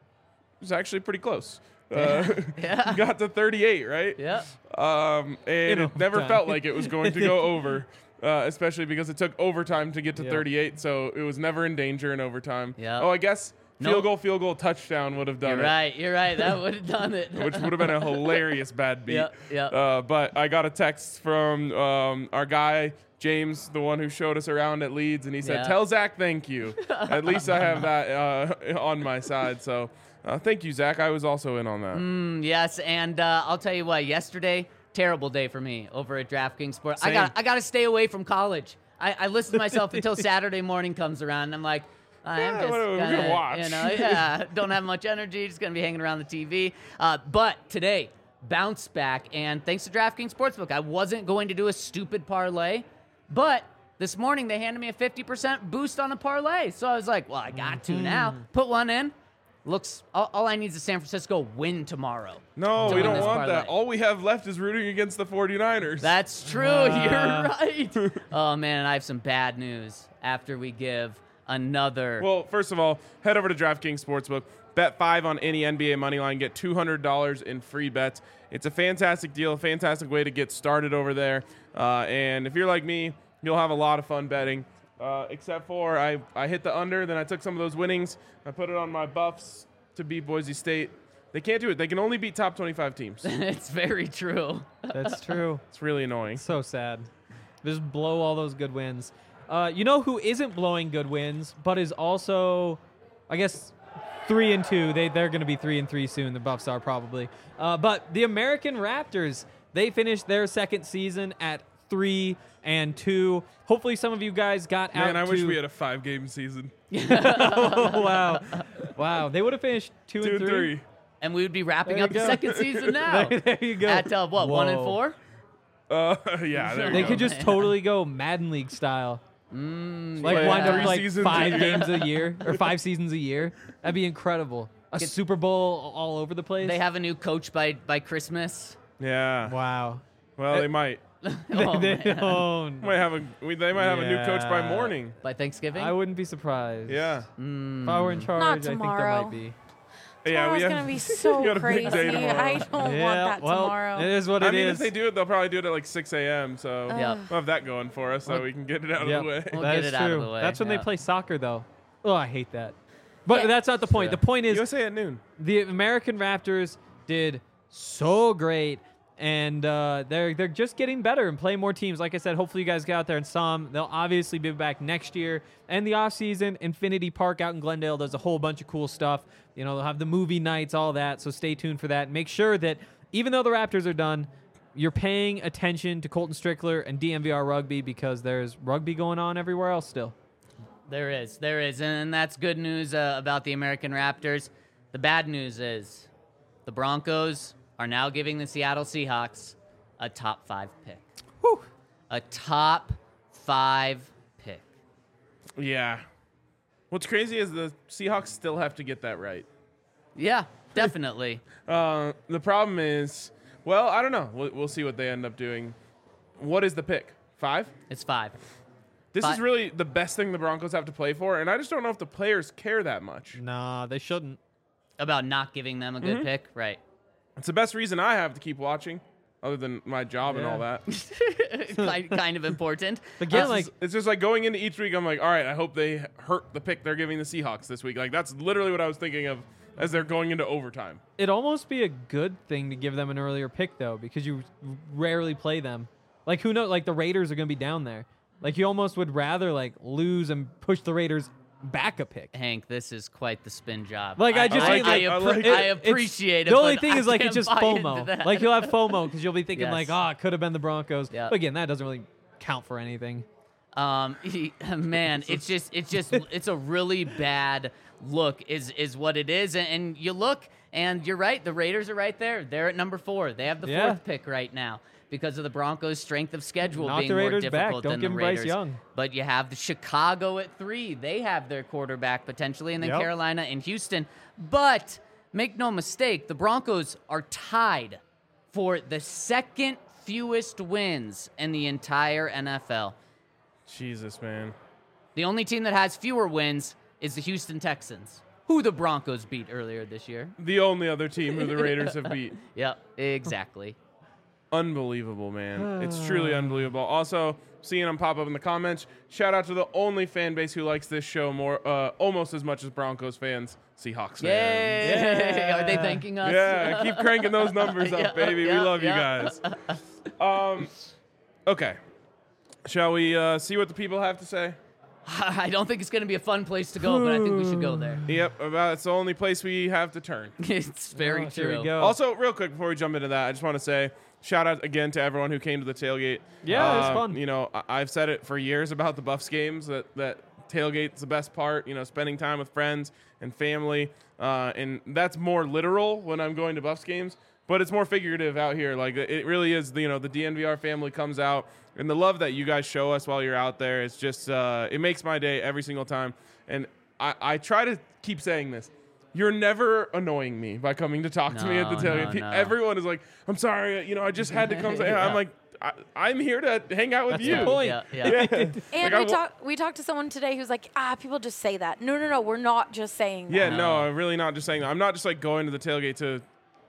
was actually pretty close. Uh, Yeah. got to thirty-eight, right? Yeah. Um, and In it never overtime. felt like it was going to go over, uh, especially because it took overtime to get to Yeah. thirty-eight, so it was never in danger in overtime. Yeah. Oh, I guess field Nope. goal, field goal, touchdown would have done You're it, right. You're right. That would have done it. which would have been a hilarious bad beat. Yep, yep. Uh, but I got a text from um, our guy, James, the one who showed us around at Leeds, and he said, Yeah. tell Zach thank you. At least I have that uh, on my side. So uh, thank you, Zach. I was also in on that. Mm, yes, and uh, I'll tell you what. Yesterday, terrible day for me over at DraftKings Sports. I Same. got I got to stay away from college. I, I listen to myself until Saturday morning comes around, and I'm like, I'm Yeah, just what are we gonna, gonna watch? You know, yeah, don't have much energy. Just gonna be hanging around the T V. Uh, but today, bounce back, and thanks to DraftKings Sportsbook, I wasn't going to do a stupid parlay, but this morning they handed me a fifty percent boost on a parlay. So I was like, well, I got to now. Put one in. Looks all, all I need is a San Francisco win tomorrow. No, to we win don't this want parlay. that. All we have left is rooting against the 49ers. That's true. Uh. You're right. Oh man, I have some bad news after we give another. Well, first of all, head over to DraftKings Sportsbook. Bet five on any N B A money line. Get two hundred dollars in free bets. It's a fantastic deal, a fantastic way to get started over there. Uh, and if you're like me, you'll have a lot of fun betting. Uh, except for I, I hit the under, then I took some of those winnings. I put it on my Buffs to beat Boise State. They can't do it. They can only beat top twenty-five teams. It's very true. That's true. It's really annoying. So sad. Just blow all those good wins. Uh, you know who isn't blowing good wins, but is also, I guess, three and two. They they're going to be three and three soon. The Buffs are probably. Uh, but the American Raptors, they finished their second season at three and two. Hopefully, some of you guys got out. Man, I wish to- we had a five-game season. Oh, wow, wow. They would have finished two, Two and and three. three. And we would be wrapping There up you the go. second season now. there, there you go. At uh, what, one and Whoa. four? Uh, yeah, there They you go. could just totally go Madden League style. Mm, Like yeah. wind Three up like seasons five a games a year or five seasons a year. That'd be incredible. A Get- Super Bowl all over the place. They have a new coach by by Christmas. Yeah. wow. Well, they might. Oh, they man. own. Might have a. we- They might have a new coach by Yeah. morning. By Thanksgiving? I wouldn't be surprised. Yeah. Mm. If I were in charge, I think there tomorrow. might be. Yeah, Tomorrow's we have, gonna be we so got a big crazy. day tomorrow. I don't yeah, want that well, tomorrow. It is what it I mean, is. if they do it, they'll probably do it at like six a.m. So Yeah. we'll have that going for us, so Well, we can get it out Yep, of the way. We'll that get is it out of true. the way, That's when yeah. they play soccer, though. Oh, I hate that. But Yeah. that's not the point. Yeah. The point is U S A at noon. the American Raptors did so great, and uh, they're they're just getting better and playing more teams. Like I said, hopefully you guys get out there and saw them. They'll obviously be back next year. And the offseason, Infinity Park out in Glendale does a whole bunch of cool stuff. You know, they'll have the movie nights, all that, so stay tuned for that. Make sure that even though the Raptors are done, you're paying attention to Colton Strickler and D M V R Rugby because there's rugby going on everywhere else still. There is, there is, and that's good news uh, about the American Raptors. The bad news is the Broncos are now giving the Seattle Seahawks a top five pick. Whew. A top five pick. Yeah. What's crazy is the Seahawks still have to get that right. Yeah, definitely. Uh, the problem is, well, I don't know. We'll, we'll see what they end up doing. What is the pick? Five? It's five. This Five. is really the best thing the Broncos have to play for, and I just don't know if the players care that much. Nah, they shouldn't. About not giving them a good Mm-hmm. pick, right? It's the best reason I have to keep watching, other than my job and all Yeah. that. kind, kind of important. Again, Uh, like, It's just like going into each week, I'm like, all right, I hope they hurt the pick they're giving the Seahawks this week. Like, that's literally what I was thinking of as they're going into overtime. it'd almost be a good thing to give them an earlier pick, though, because you rarely play them. Like, who knows? Like, the Raiders are going to be down there. Like, you almost would rather, like, lose and push the Raiders back a pick. Hank, this is quite the spin job. Like, I just I, mean, I, like, appre- I like I it. appreciate it. The only but thing I is, like, can't it's just buy into FOMO. that. Like, you'll have FOMO because you'll be thinking, Yes. like, oh, it could have been the Broncos. Yep. But again, that doesn't really count for anything. Um, he, man, it's just, it's just, it's a really bad look, is is what it is. And, and you look, and you're right. The Raiders are right there. They're at number four. They have the Yeah. fourth pick right now because of the Broncos' strength of schedule Knock being the more Raiders back. difficult Don't than give the them Bryce Raiders. Young. But you have the Chicago at three. They have their quarterback potentially, and then Yep. Carolina and Houston. But make no mistake, the Broncos are tied for the second fewest wins in the entire N F L. Jesus, man. The only team that has fewer wins is the Houston Texans, who the Broncos beat earlier this year. The only other team who the Raiders have beat. Yep, exactly. Unbelievable, man. It's truly unbelievable. Also, seeing them pop up in the comments, shout out to the only fan base who likes this show more, uh, almost as much as Broncos fans, Seahawks fans. Yay! Are they thanking us? Yeah, keep cranking those numbers up, Yeah, baby. yeah, we love yeah. you guys. Um, okay. Shall we uh, see what the people have to say? I don't think it's going to be a fun place to go, but I think we should go there. Yep, about it's the only place we have to turn. It's very Oh, true. here we go. Also, real quick before we jump into that, I just want to say shout out again to everyone who came to the tailgate. Yeah, it was Uh, fun. You know, I- I've said it for years about the Buffs games that that tailgate's the best part. You know, spending time with friends and family, uh, and that's more literal when I'm going to Buffs games. But it's more figurative out here. Like it really is. You know, the D N V R family comes out, and the love that you guys show us while you're out there is just uh, it makes my day every single time. And I, I try to keep saying this. You're never annoying me by coming to talk to me at the No, tailgate. no, Pe- no. Everyone is like, I'm sorry, you know, I just had to come say. Yeah. I'm like, I, I'm here to hang out with That's you. the point. Yeah, yeah. Yeah. And Like, I we wa- talked we talked to someone today who's like, ah, people just say that. No, no, no, we're not just saying that. Yeah, no, No. I'm really not just saying that. I'm not just like going to the tailgate to,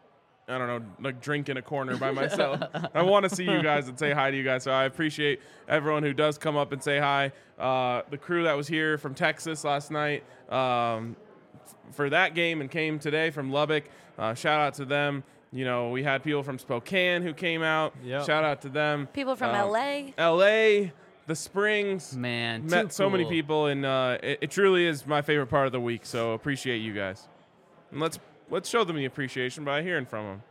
I don't know, like drink in a corner by myself. I want to see you guys and say hi to you guys. So I appreciate everyone who does come up and say hi. Uh, the crew that was here from Texas last night um, f- for that game and came today from Lubbock. Uh, shout out to them. You know, we had people from Spokane who came out. Yep. Shout out to them. People from Um, L A. L A, the Springs. Man, Met too so many cool. people, and uh, it, it truly is my favorite part of the week. So appreciate you guys, and let's let's show them the appreciation by hearing from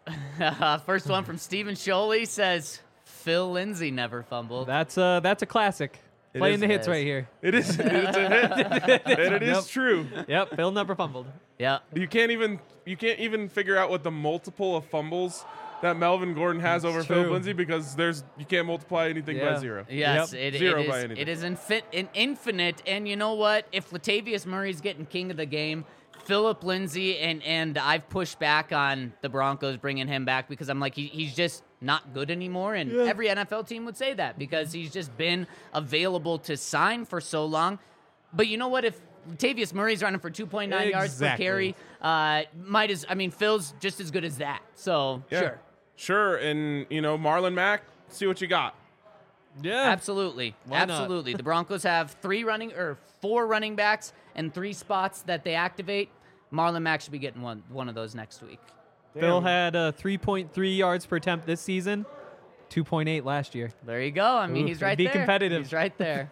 them. First one from Stephen Sholey says, Phil Lindsay never fumbled. That's uh that's a classic. It Playing is- the hits it is. right here. It is it's a hit, and it is Yep. true. Yep, Phil never fumbled. Yeah. You can't even you can't even figure out what the multiple of fumbles that Melvin Gordon has over Phil true. Lindsay because there's you can't multiply anything by Yeah. zero. Yes, Yep. it, Zero it by is. anything. It is infin- in infinite. And you know what? If Latavius Murray's getting king of the game, Philip Lindsay, and and I've pushed back on the Broncos bringing him back because I'm like he, he's just not good anymore, and every N F L team would say that because he's just been available to sign for so long. But you know what? If Latavius Murray's running for two point nine yards per Exactly. carry, uh, might as I mean Phil's just as good as that. So Yeah. sure. Sure, and you know Marlon Mack, see what you got. Yeah. Absolutely. Why not? Absolutely. The Broncos have three running or four running backs and three spots that they activate. Marlon Mack should be getting one one of those next week. Phil Damn. had uh, three point three yards per attempt this season, two point eight last year. There you go. I mean, Ooh, he's right be there. competitive. He's right there.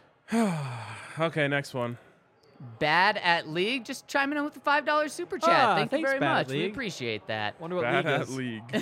Okay, next one. Bad at league, just chiming in with the five dollar super chat. Ah, Thank you thanks, very Bad much. at We League. appreciate that. Wonder what Bad league at is.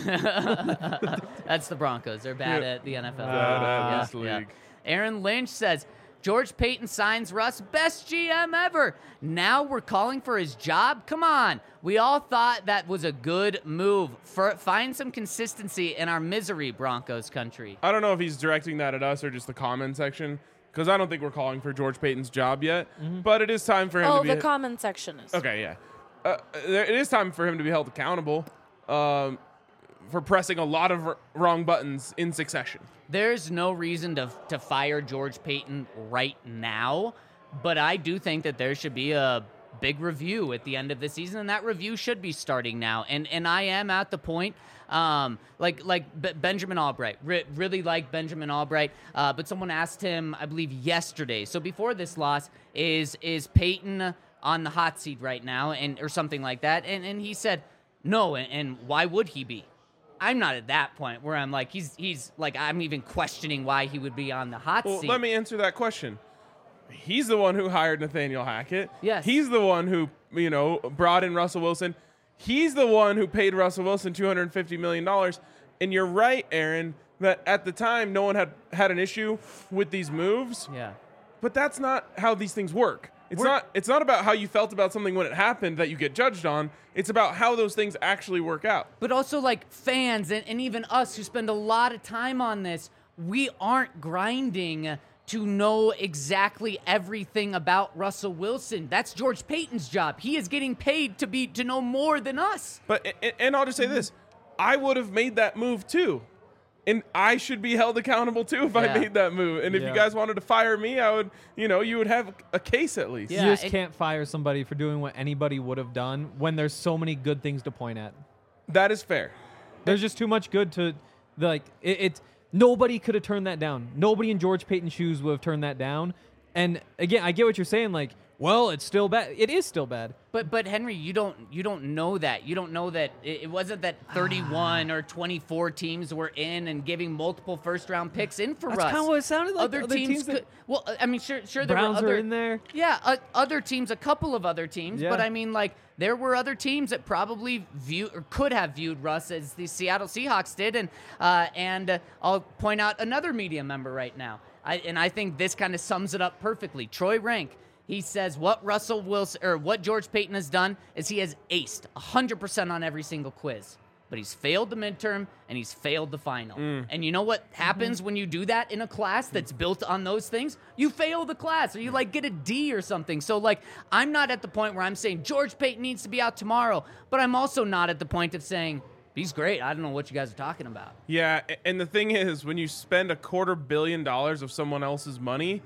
league. That's the Broncos. They're bad Yeah. at the N F L. Bad at Yeah, this yeah. league. Aaron Lynch says, George Payton signs Russ, best G M ever. Now we're calling for his job? Come on. We all thought that was a good move. For, find some consistency in our misery, Broncos country. I don't know if he's directing that at us or just the comment section, because I don't think we're calling for George Payton's job yet. But it is time for him Oh, to be. the comment section is. Okay, yeah. Uh, there, it is time for him to be held accountable um, for pressing a lot of r- wrong buttons in succession. There's no reason to to fire George Payton right now, but I do think that there should be a big review at the end of the season, and that review should be starting now. And and I am at the point, um, like like B- Benjamin Albright, Re- really like Benjamin Albright, uh, but someone asked him, I believe yesterday, so before this loss, is is Payton on the hot seat right now, and or something like that, and and he said no, and, and why would he be? I'm not at that point where I'm like, he's he's like, I'm even questioning why he would be on the hot Well, seat. let me answer that question. He's the one who hired Nathaniel Hackett. Yes. He's the one who, you know, brought in Russell Wilson. He's the one who paid Russell Wilson two hundred fifty million dollars. And you're right, Aaron, that at the time no one had had an issue with these moves. Yeah. But that's not how these things work. It's We're- not it's not about how you felt about something when it happened that you get judged on. It's about how those things actually work out. But also, like, fans and, and even us who spend a lot of time on this, we aren't grinding to know exactly everything about Russell Wilson. That's George Payton's job. He is getting paid to be to know more than us. But and, and I'll just say this. I would have made that move too. And I should be held accountable too if Yeah. I made that move. And if Yeah. you guys wanted to fire me, I would, you know, you would have a case at least. Yeah. you just it- can't fire somebody for doing what anybody would have done when there's so many good things to point at. That is fair. There's just too much good to, like, it, it nobody could have turned that down. Nobody in George Payton's shoes would have turned that down. And again, I get what you're saying. Like, well, it's still bad. It is still bad. But but Henry, you don't you don't know that. You don't know that it, it wasn't that thirty-one or twenty-four teams were in and giving multiple first round picks in for That's Russ. kinda what it sounded like. Other, Other teams, teams that- could. Well, I mean, sure, sure. There Browns were other, are in there. Yeah, uh, other teams, a couple of other teams, Yeah. but I mean, like there were other teams that probably view or could have viewed Russ as the Seattle Seahawks did, and uh, and uh, I'll point out another media member right now, I, and I think this kind of sums it up perfectly. Troy Rank. He says what Russell Wilson or what George Payton has done is he has aced one hundred percent on every single quiz. But he's failed the midterm and he's failed the final. And you know what happens when you do that in a class that's built on those things? You fail the class or you like get a D or something. So like I'm not at the point where I'm saying George Payton needs to be out tomorrow, but I'm also not at the point of saying he's great. I don't know what you guys are talking about. Yeah, a- and the thing is, when you spend a quarter billion dollars of someone else's money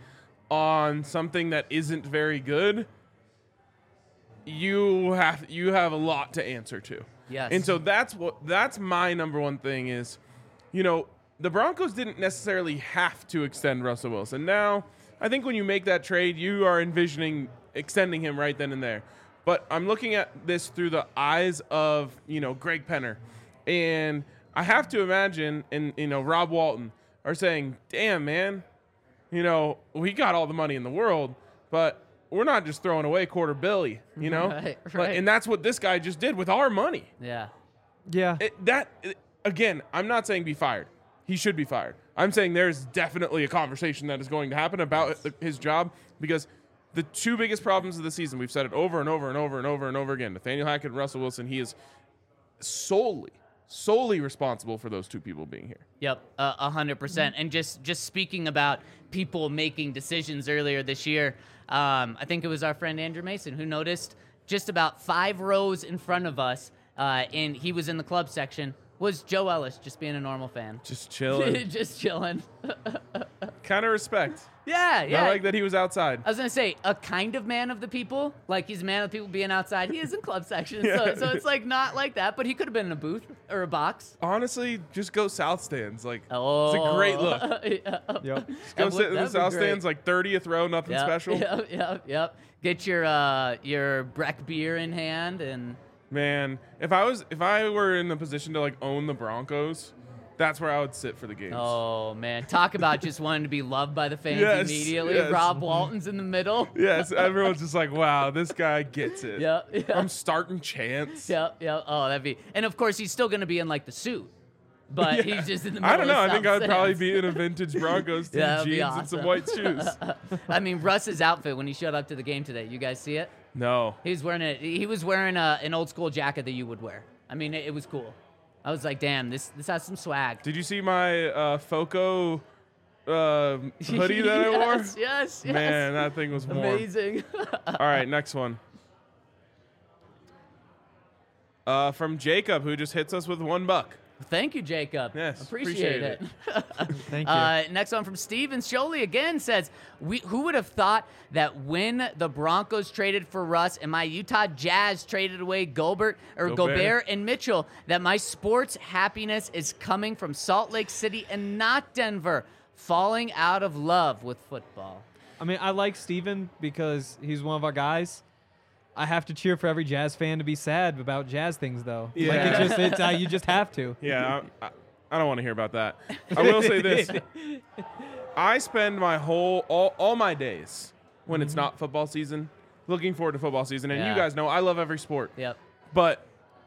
on something that isn't very good, you have you have a lot to answer to. Yes. And so that's what that's my number one thing is, you know, the Broncos didn't necessarily have to extend Russell Wilson. Now, I think when you make that trade, you are envisioning extending him right then and there. But I'm looking at this through the eyes of, you know, Greg Penner. And I have to imagine, and, you know, Rob Walton are saying, damn, man, you know, we got all the money in the world, but we're not just throwing away quarter billy, you know? Right, But- right. and that's what this guy just did with our money. Yeah. Yeah. It, that it- again, I'm not saying be fired. He should be fired. I'm saying there's definitely a conversation that is going to happen about his job because the two biggest problems of the season, we've said it over and over and over and over and over again. Nathaniel Hackett and Russell Wilson, he is solely, solely responsible for those two people being here. Yep, a hundred percent. And just just speaking about people making decisions earlier this year, um, I think it was our friend Andrew Mason who noticed just about five rows in front of us, uh, and he was in the club section. Was Joe Ellis just being a normal fan? Just chilling. just chilling. Kind of respect. Yeah, yeah. I like that he was outside. I was gonna say a kind of man of the people, like he's a man of the people being outside. He is in club section, so, so it's like not like that. But he could have been in a booth or a box. Honestly, just go south stands. Like, Oh, it's a great look. yeah. Yep. Just go That would- sit in the that'd be south great. stands, like thirtieth row, nothing Yep, special. Yep, yep, yep. Get your uh, your Breck beer in hand and Man, if I was if I were in the position to like own the Broncos, that's where I would sit for the games. Oh man, talk about just wanting to be loved by the fans Yes, immediately. yes. Rob Walton's in the middle. Yes, everyone's just like, wow, this guy gets it. Yeah, yeah. I'm starting chance. Yeah, yeah. Oh, that'd be. And of course, he's still going to be in like the suit, but Yeah. he's just in the middle. I don't know. Of I think I would South probably Sands. be in a vintage Broncos team, Yeah, that'd be jeans and some awesome. white shoes. I mean, Russ's outfit when he showed up to the game today. You guys see it? No. He was wearing a he was wearing a, an old school jacket that you would wear. I mean, it, it was cool. I was like, damn, this this has some swag. Did you see my uh, Foco uh, hoodie that I wore? Yes, yes, yes. Man, that thing was warm. Amazing. All right, next one. Uh, from Jacob, who just hits us with one buck. Thank you, Jacob. Yes, appreciate, appreciate it. Thank you. Uh, next one from Steven Sholey again says, "We who would have thought that when the Broncos traded for Russ and my Utah Jazz traded away Gobert or Gobert. Gobert, and Mitchell, that my sports happiness is coming from Salt Lake City and not Denver, falling out of love with football." I mean, I like Steven because he's one of our guys. I have to cheer for every Jazz fan to be sad about Jazz things, though. Like Yeah. it just, it's, uh, you just have to. Yeah, I, I, I don't want to hear about that. I will say this. I spend my whole, all, all my days when it's not football season, looking forward to football season. And Yeah. you guys know I love every sport. Yep. But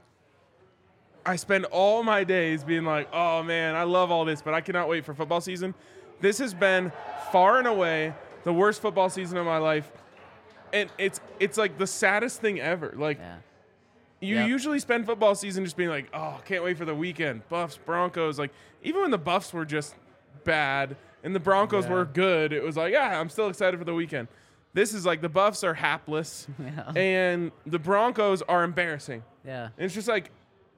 I spend all my days being like, oh man, I love all this, but I cannot wait for football season. This has been far and away the worst football season of my life. And it's it's like the saddest thing ever. Like Yeah. you Yep. usually spend football season just being like, oh, can't wait for the weekend. Buffs, Broncos. Like even when the Buffs were just bad and the Broncos Yeah. were good, it was like, yeah, I'm still excited for the weekend. This is like the Buffs are hapless Yeah. and the Broncos are embarrassing. Yeah. And it's just like,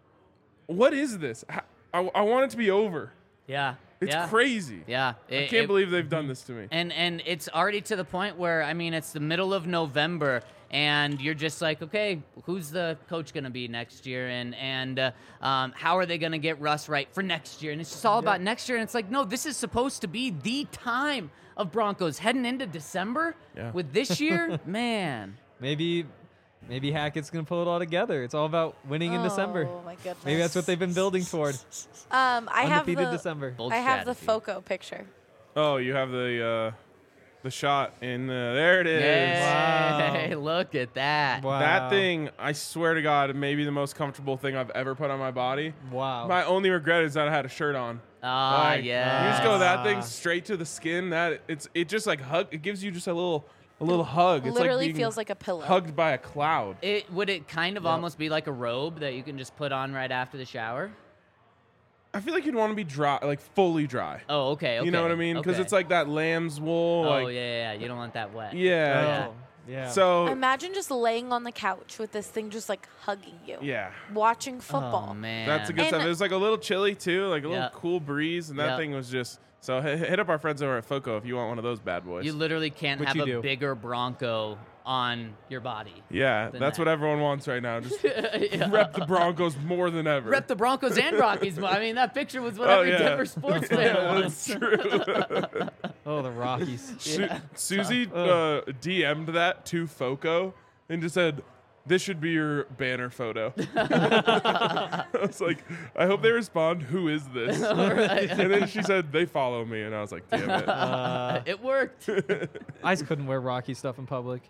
what is this? I, I, I want it to be over. Yeah. It's yeah. crazy. Yeah. I It- can't it- believe they've done this to me. And and it's already to the point where, I mean, it's the middle of November, and you're just like, okay, who's the coach going to be next year, and and uh, um, how are they going to get Russ right for next year? And it's just all about next year. And it's like, no, this is supposed to be the time of Broncos heading into December. Yeah. With this year, man. Maybe, maybe Hackett's gonna pull it all together. It's all about winning in December. Oh my goodness. Maybe that's what they've been building toward. Um, I have Undefeated the December. Bold I have the strategy. Foco picture. Oh, you have the uh, the shot in uh, there it is. Hey, Wow. look at that. Wow. That thing, I swear to God, may be the most comfortable thing I've ever put on my body. Wow. My only regret is that I had a shirt on. Ah, Like, yeah. You just go that thing Ah. straight to the skin. That it's it just like hug. It gives you just a little a little hug. It's Literally like being feels like a pillow. hugged by a cloud. It would it kind of almost be like a robe that you can just put on right after the shower? I feel like you'd want to be dry, like fully dry. Oh, okay. okay You know what I mean? Because okay. it's like that lamb's wool. Oh, like, yeah, yeah, yeah. You don't want that wet. yeah. Yeah. Oh, yeah. So Imagine just laying on the couch with this thing just like hugging you. yeah, Watching football. Oh, man. that's a good And- stuff. It was like a little chilly too, like a little Yeah. cool breeze, and that Yeah. thing was just. So hit hit up our friends over at Foco if you want one of those bad boys. You literally can't Which have you a do. bigger Bronco on your body. yeah, than that's that. what everyone wants right now. Just Yeah. rep the Broncos more than ever. Rep the Broncos and Rockies. I mean, that picture was what Oh, every yeah. Denver sports fan Yeah, wants. that's true. Oh, the Rockies. Su- Susie uh, D M'd that to Foco and just said, "This should be your banner photo." I was like, "I hope they respond. Who is this?" Right. And then she said, "They follow me," and I was like, "Damn it!" Uh, It worked. I just couldn't wear Rocky stuff in public.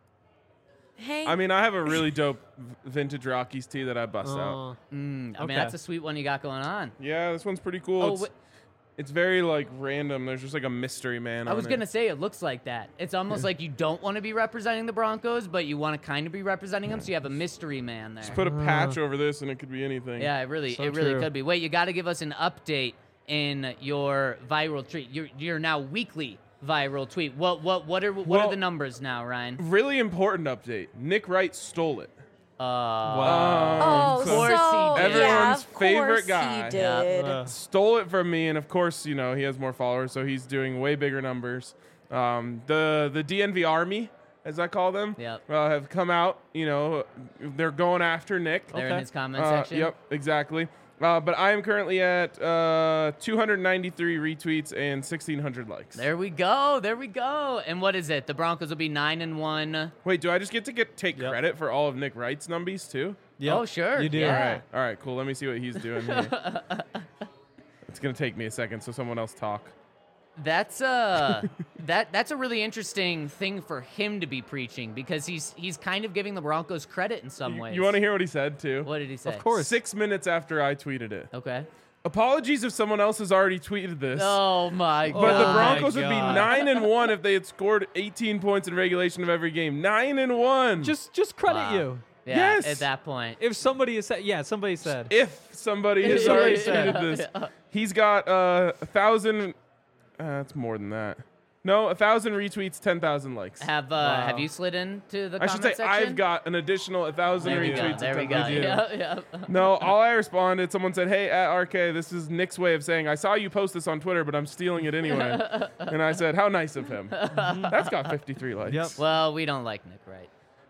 Hey, I mean, I have a really dope v- vintage Rockies tee that I bust out. Uh, Mm, I Okay. mean, that's a sweet one you got going on. Yeah, this one's pretty cool. Oh, it's, wait. it's very like random. There's just like a mystery man. I was on gonna it. say it looks like that. It's almost like you don't want to be representing the Broncos, but you want to kind of be representing them, so you have a mystery man there. Just put a patch over this, and it could be anything. Yeah, it really, So it really true. could be. Wait, you got to give us an update in your viral tweet. You're you're now weekly viral tweet. What what what are what Well- are the numbers now, Ryan? Really important update. Nick Wright stole it. Uh, wow. oh, Um, Of course so he did. yeah, Everyone's of favorite course guy. He did. Uh, Stole it from me, and of course, you know he has more followers, so he's doing way bigger numbers. Um, the the D N V Army, as I call them, Yep. uh, have come out. You know, they're going after Nick. They're in Okay. his comment Uh, section. Yep, exactly. Uh, but I am currently at uh, two hundred ninety-three retweets and sixteen hundred likes. There we go. There we go. And what is it? The Broncos will be nine and one. Wait, do I just get to get take Yep. credit for all of Nick Wright's numbies too? Yep, Oh, sure. You do. Yeah. All right. All right. Cool. Let me see what he's doing here. It's gonna take me a second, so someone else talk. That's uh that that's a really interesting thing for him to be preaching because he's he's kind of giving the Broncos credit in some You, ways. you want to hear what he said too? What did he say? Of course. Six minutes after I tweeted it. Okay. Apologies if someone else has already tweeted this. Oh my god. But the Oh Broncos my would be God. nine and one if they had scored eighteen points in regulation of every game. Nine and one. Just just credit Wow. you. Yeah, Yes. at that point. If somebody has said, yeah, somebody said. if somebody has Yeah, already yeah, tweeted this, yeah. he's got uh, a thousand. Uh, that's more than that. No, a thousand retweets, ten thousand likes. Have uh Wow. have you slid into the I should comment say section? I've got an additional a thousand There we retweets. go. and There we 10,000 go. likes. Yeah, yeah. No, all I responded, someone said, "Hey, at R K, this is Nick's way of saying I saw you post this on Twitter, but I'm stealing it anyway." And I said, "How nice of him." That's got fifty-three likes. Yep. Well, we don't like Nick, right?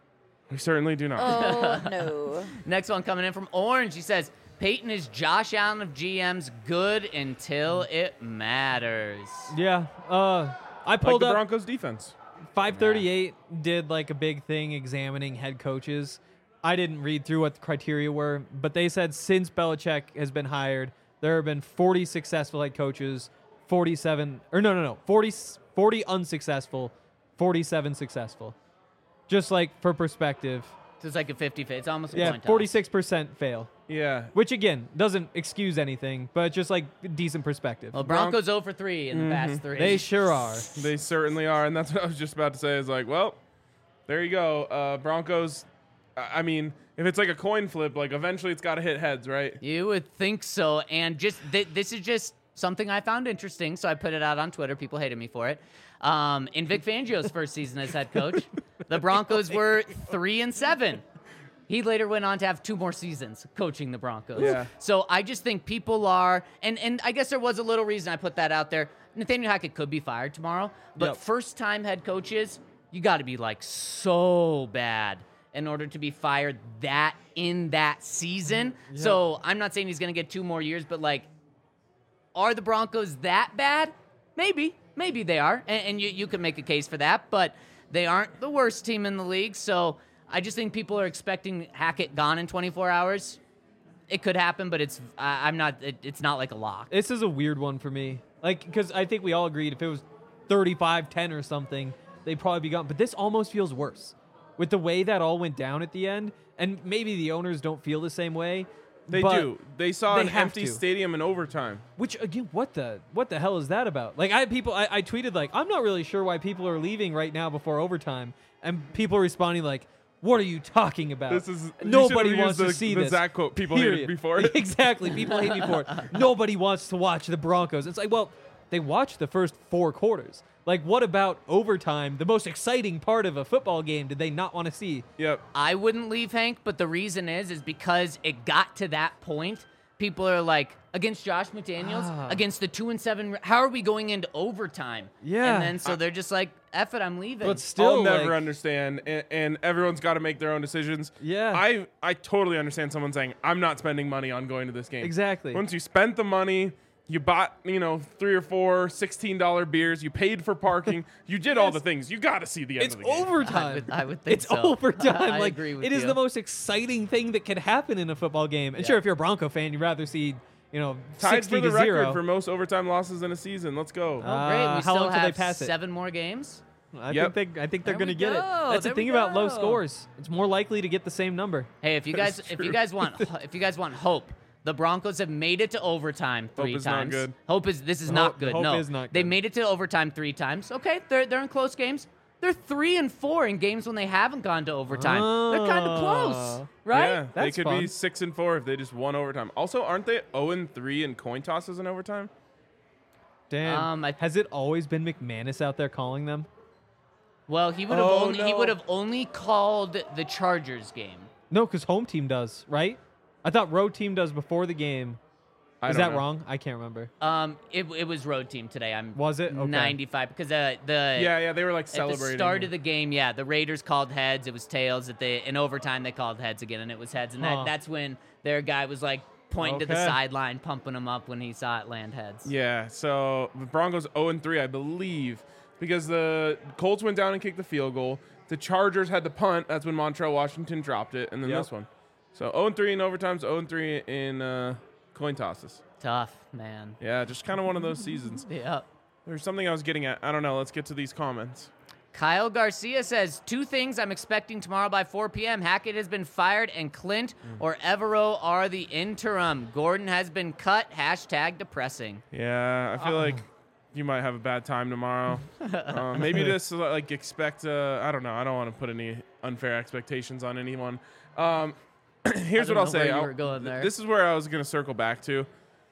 We certainly do not. Oh no. Next one coming in from Orange. He says, Peyton is Josh Allen of G M's good until it matters. Yeah. Uh, I Like pulled the up Broncos defense. five thirty-eight did like a big thing examining head coaches. I didn't read through what the criteria were, but they said since Belichick has been hired, there have been forty successful head coaches, forty-seven or no, no, no, forty, forty unsuccessful, forty-seven successful. Just like for perspective. So it's like a fifty-fifty. It's almost a Yeah, coin toss. forty-six percent fail, Yeah. which again doesn't excuse anything, but just like decent perspective. Well, Broncos zero for three in the past three. They sure are. They certainly are, and that's what I was just about to say. Is like, well, there you go. Uh, Broncos. I I mean, if it's like a coin flip, like eventually it's got to hit heads, right? You would think so. And just th- this is just something I found interesting, so I put it out on Twitter. People hated me for it. Um, in Vic Fangio's first season as head coach, the Broncos were three and seven. He later went on to have two more seasons coaching the Broncos. Yeah. So I just think people are, and and I guess there was a little reason I put that out there. Nathaniel Hackett could be fired tomorrow, but Yep. first-time head coaches, you got to be like so bad in order to be fired that in that season. So I'm not saying he's going to get two more years, but like, are the Broncos that bad? Maybe. Maybe they are. And, and you, you can make a case for that, but they aren't the worst team in the league. So I just think people are expecting Hackett gone in twenty-four hours. It could happen, but it's I, I'm not. It, it's not like a lock. This is a weird one for me. Like, because I think we all agreed if it was thirty-five ten or something, they'd probably be gone. But this almost feels worse with the way that all went down at the end. And maybe the owners don't feel the same way. They but- do. They saw they an have empty to. stadium in overtime. Which again, what the what the hell is that about? Like, I had people. I, I tweeted like, I'm not really sure why people are leaving right now before overtime, and people responding like, "What are you talking about? This is you Nobody should've wants used to the, see the this." Zach quote people Period. hated before it. Exactly. People hate me for it. Nobody wants to watch the Broncos. It's like, well, they watched the first four quarters. Like, what about overtime? The most exciting part of a football game did they not want to see? Yep. I wouldn't leave, Hank, but the reason is is because it got to that point. People are like, against Josh McDaniels, Ah. against the two and seven. How are we going into overtime? Yeah. and then so they're just like, "Eff it, I'm leaving." But still, I'll never like, understand, and, and everyone's got to make their own decisions. Yeah. I I totally understand someone saying, "I'm not spending money on going to this game." Exactly. Once you spent the money, you bought, you know, three or four sixteen dollar beers, you paid for parking, you did all the things. You got to see the end It's of the game. overtime. I would- I would think it's so. overtime. I like, agree with it is you. the most exciting thing that could happen in a football game. And Yeah. sure, if you're a Bronco fan, you'd rather see, you know, Tied sixty for the to record zero. for most overtime losses in a season. Let's go. Oh, great. Uh, We how still long till they have pass it? seven more games. I Yep. think they, I think they're There going we to get it. go. That's There the thing we about low go. scores. It's more likely to get the same number. Hey, if you That's guys if true. you guys want if you guys want hope, the Broncos have made it to overtime three is not times. good. Hope is this is Hope- not good. hope no, is not they good. made it to overtime three times. Okay, they're they're in close games. They're three and four in games when they haven't gone to overtime. They're kind of close, Oh. right? Yeah, they That's could fun. be six and four if they just won overtime. Also, aren't they zero and three in coin tosses in overtime? Damn. Um, I- Has it always been McManus out there calling them? Well, he would have Oh, only he no. would have only called the Chargers game. No, because home team does, right? I thought road team does before the game. I Is don't that know. wrong? I can't remember. Um, it, it was road team today. I'm Was it? Okay. ninety-five because uh, the Yeah, yeah, they were like At celebrating. the start of the game, yeah, the Raiders called heads. It was tails. At the in overtime, they called heads again, and it was heads. And Huh. that, that's when their guy was like pointing to the Okay. sideline, pumping him up when he saw it land heads. Yeah, so the Broncos zero and three, I believe, because the Colts went down and kicked the field goal. The Chargers had the punt. That's when Montrell Washington dropped it, and then Yep. this one. So oh and three in overtimes, oh and three in uh, coin tosses. Tough, man. Yeah, just kind of one of those seasons. Yep. There's something I was getting at. I don't know. Let's get to these comments. Kyle Garcia says, two things I'm expecting tomorrow by four p.m. Hackett has been fired, and Clint Mm. or Evero are the interim. Gordon has been cut. Hashtag depressing. Yeah, I feel like you might have a bad time tomorrow. um, maybe just like expect. Uh, I don't know. I don't want to put any unfair expectations on anyone. Um, here's I what I'll don't know where say. you I'll- were going there. This is where I was going to circle back to.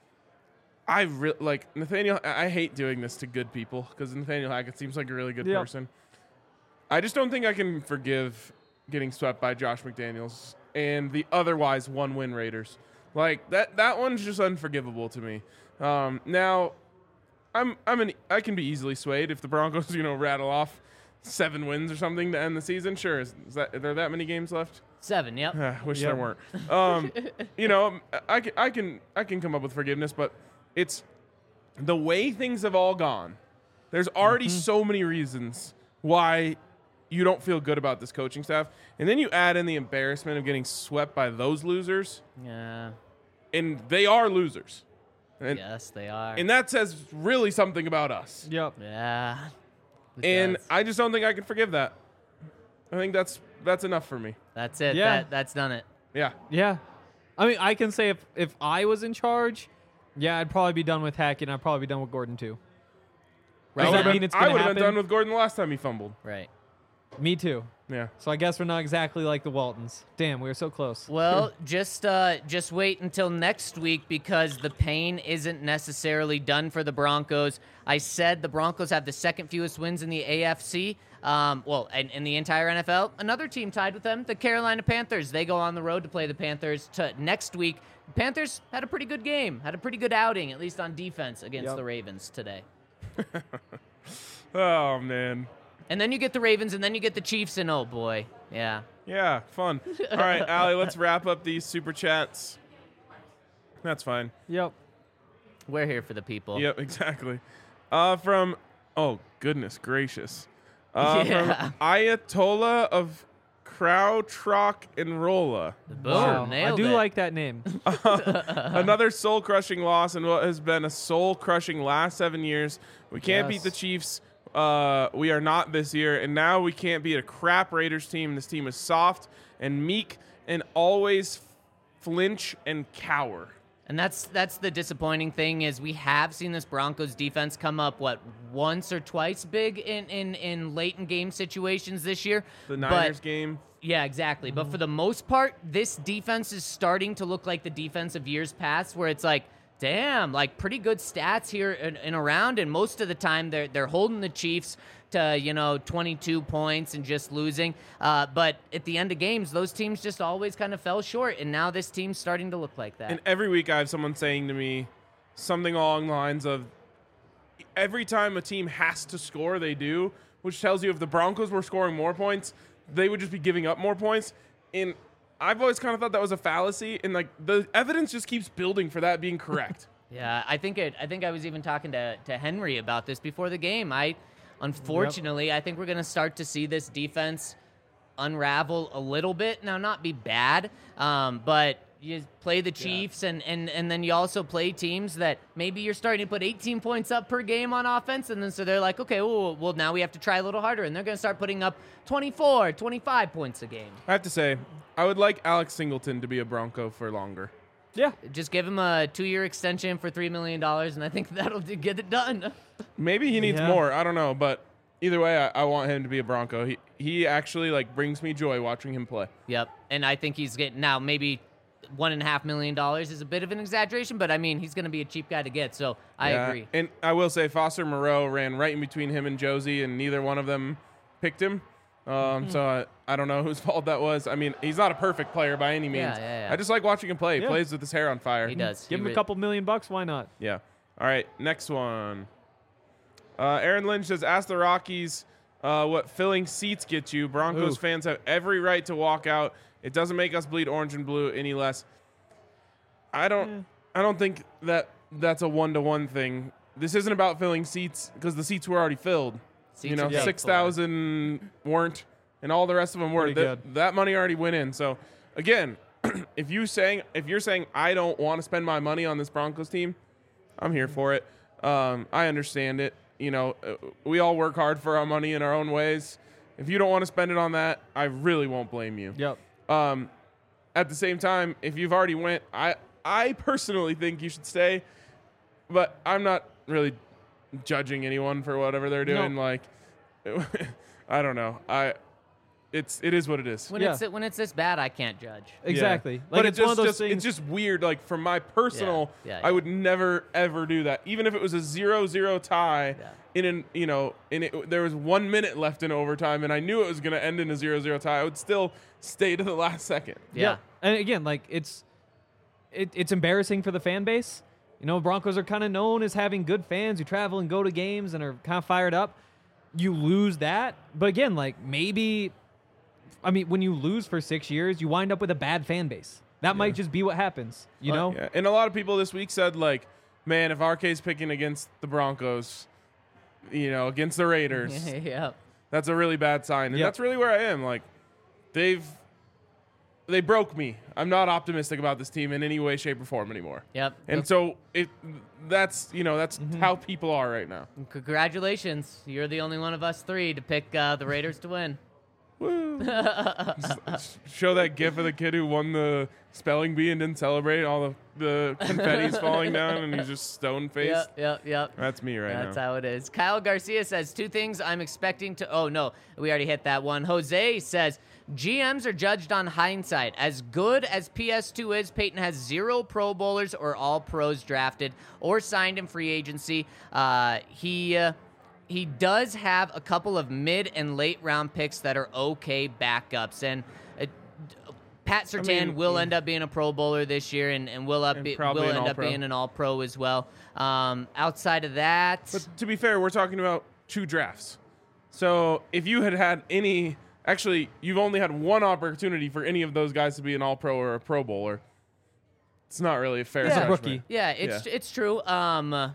I re- like Nathaniel. I I hate doing this to good people because Nathaniel Hackett seems like a really good Yep. person. I just don't think I can forgive getting swept by Josh McDaniels and the otherwise one-win Raiders. Like that. That one's just unforgivable to me. Um, now, I'm I'm an I can be easily swayed if the Broncos you know rattle off seven wins or something to end the season. Sure, is, is that are there that many games left? Seven, yep. Ah, wish Yep. there weren't. Um, you know, I can, I can I can come up with forgiveness, but it's the way things have all gone. There's already so many reasons why you don't feel good about this coaching staff, and then you add in the embarrassment of getting swept by those losers, Yeah. and they are losers, and Yes, they are. and that says really something about us. Yep. yeah. It And does. I just don't think I can forgive that. I think that's that's enough for me. That's it. Yeah. That, that's done it. Yeah. Yeah. I mean, I can say if, if I was in charge, yeah, I'd probably be done with Hackett, and I'd probably be done with Gordon too. Right. Does I that would've mean been- it's I gonna would have been happen? done with Gordon the last time he fumbled. Right. Me too. Yeah. So I guess we're not exactly like the Waltons. Damn, we were so close. Well, just uh, just wait until next week because the pain isn't necessarily done for the Broncos. I said the Broncos have the second fewest wins in the A F C. Um, well, in, in the entire N F L. Another team tied with them, the Carolina Panthers. They go on the road to play the Panthers to next week. The Panthers had a pretty good game, had a pretty good outing, at least on defense against Yep. the Ravens today. Oh man. And then you get the Ravens, and then you get the Chiefs, and oh boy, yeah. Yeah, fun. All right, Allie, let's wrap up these super chats. That's fine. Yep. We're here for the people. Yep, exactly. Uh, from oh goodness gracious, uh, Yeah. from Ayatollah of Krautrock and Rolla. Boom, Wow. I nailed do it. like that name. Another soul-crushing loss in what has been a soul-crushing last seven years. We can't beat Yes. the Chiefs. Uh, we are not this year, and now we can't beat a crap Raiders team. This team is soft and meek and always flinch and cower. And that's that's the disappointing thing is we have seen this Broncos defense come up what once or twice big in in, in late in game situations this year. The But- Niners game. Yeah, exactly. But for the most part, this defense is starting to look like the defense of years past, where it's like, damn, like pretty good stats here and, and around, and most of the time they're they're holding the Chiefs to you know twenty-two points and just losing. Uh, but at the end of games, those teams just always kind of fell short, and now this team's starting to look like that. And every week I have someone saying to me something along the lines of every time a team has to score, they do, which tells you if the Broncos were scoring more points, they would just be giving up more points. And I've always kind of thought that was a fallacy, and like the evidence just keeps building for that being correct. Yeah, I think it. I think I was even talking to, to Henry about this before the game. I, unfortunately, I think we're gonna start to see this defense unravel a little bit. Now, not be bad, um, but you play the Chiefs, and, and and then you also play teams that maybe you're starting to put eighteen points up per game on offense, and then so they're like, okay, well, well now we have to try a little harder, and they're gonna start putting up twenty-four, twenty-five points a game. I have to say, I would like Alex Singleton to be a Bronco for longer. Yeah. Just give him a two-year extension for three million dollars, and I think that'll do- get it done. Maybe he needs Yeah. more. I don't know, but either way, I, I want him to be a Bronco. He he actually like brings me joy watching him play. Yep, and I think he's getting now maybe one and a half million dollars is a bit of an exaggeration, but I mean he's going to be a cheap guy to get, so I Yeah, agree. And I will say Foster Moreau ran right in between him and Josie, and neither one of them picked him. Um, Mm-hmm. so I, I don't know whose fault that was. I mean, he's not a perfect player by any means. Yeah, yeah, yeah. I just like watching him play. He Yeah. plays with his hair on fire. He does. Give He him a re- couple million bucks. Why not? Yeah. All right, next one. Uh, Aaron Lynch says, ask the Rockies uh, what filling seats get you. Broncos Ooh. fans have every right to walk out. It doesn't make us bleed orange and blue any less. I don't I don't think that that's a one-to-one thing. This isn't about filling seats because the seats were already filled. Seats you know, are paid six for. thousand weren't, and all the rest of them were. Pretty That, good. that money already went in. So, again, if you saying if you're saying I don't want to spend my money on this Broncos team, I'm here for it. Um, I understand it. You know, uh, we all work hard for our money in our own ways. If you don't want to spend it on that, I really won't blame you. Yep. Um, at the same time, if you've already went, I I personally think you should stay, but I'm not really judging anyone for whatever they're doing. No. Like, I don't know. I it's it is what it is. When Yeah. it's when it's this bad, I can't judge. Exactly. Yeah. Like but it's it just, one of those just things. it's just weird. Like from my personal, Yeah, yeah, I yeah. would never ever do that. Even if it was a zero zero tie Yeah. in an you know in it, there was one minute left in overtime, and I knew it was going to end in a zero zero tie. I would still stay to the last second. Yeah. And again, like it's it, it's embarrassing for the fan base. You know, Broncos are kind of known as having good fans who travel and go to games and are kind of fired up. You lose that, but again, like maybe, I mean, when you lose for six years, you wind up with a bad fan base. That might just be what happens. You know? Yeah. And a lot of people this week said like, man, if R K's picking against the Broncos, you know, against the Raiders, yeah. that's a really bad sign. And Yep. that's really where I am. Like, they've they broke me. I'm not optimistic about this team in any way, shape, or form anymore. Yep. And so it that's you know that's Mm-hmm. how people are right now. Congratulations. You're the only one of us three to pick uh, the Raiders to win. Woo. S- Show that gif of the kid who won the spelling bee and didn't celebrate. All the the confetti's falling down and he's just stone faced. Yep, yep, yep. That's me right That's now. how it is. Kyle Garcia says two things I'm expecting to. Oh, no, we already hit that one. Jose says G Ms are judged on hindsight. As good as P S two is, Peyton has zero Pro Bowlers or all pros drafted or signed in free agency. Uh, he. Uh, He does have a couple of mid and late round picks that are okay backups. And uh, Pat Surtain mean, will yeah. end up being a Pro Bowler this year and, and will, up And be, probably will an end up All-Pro. being an All Pro as well. Um, outside of that. But to be fair, we're talking about two drafts. So if you had had any, actually, you've only had one opportunity for any of those guys to be an All-Pro or a Pro Bowler. It's not really a fair Yeah. judgment. Rookie. Yeah, it's Yeah. it's true. Um,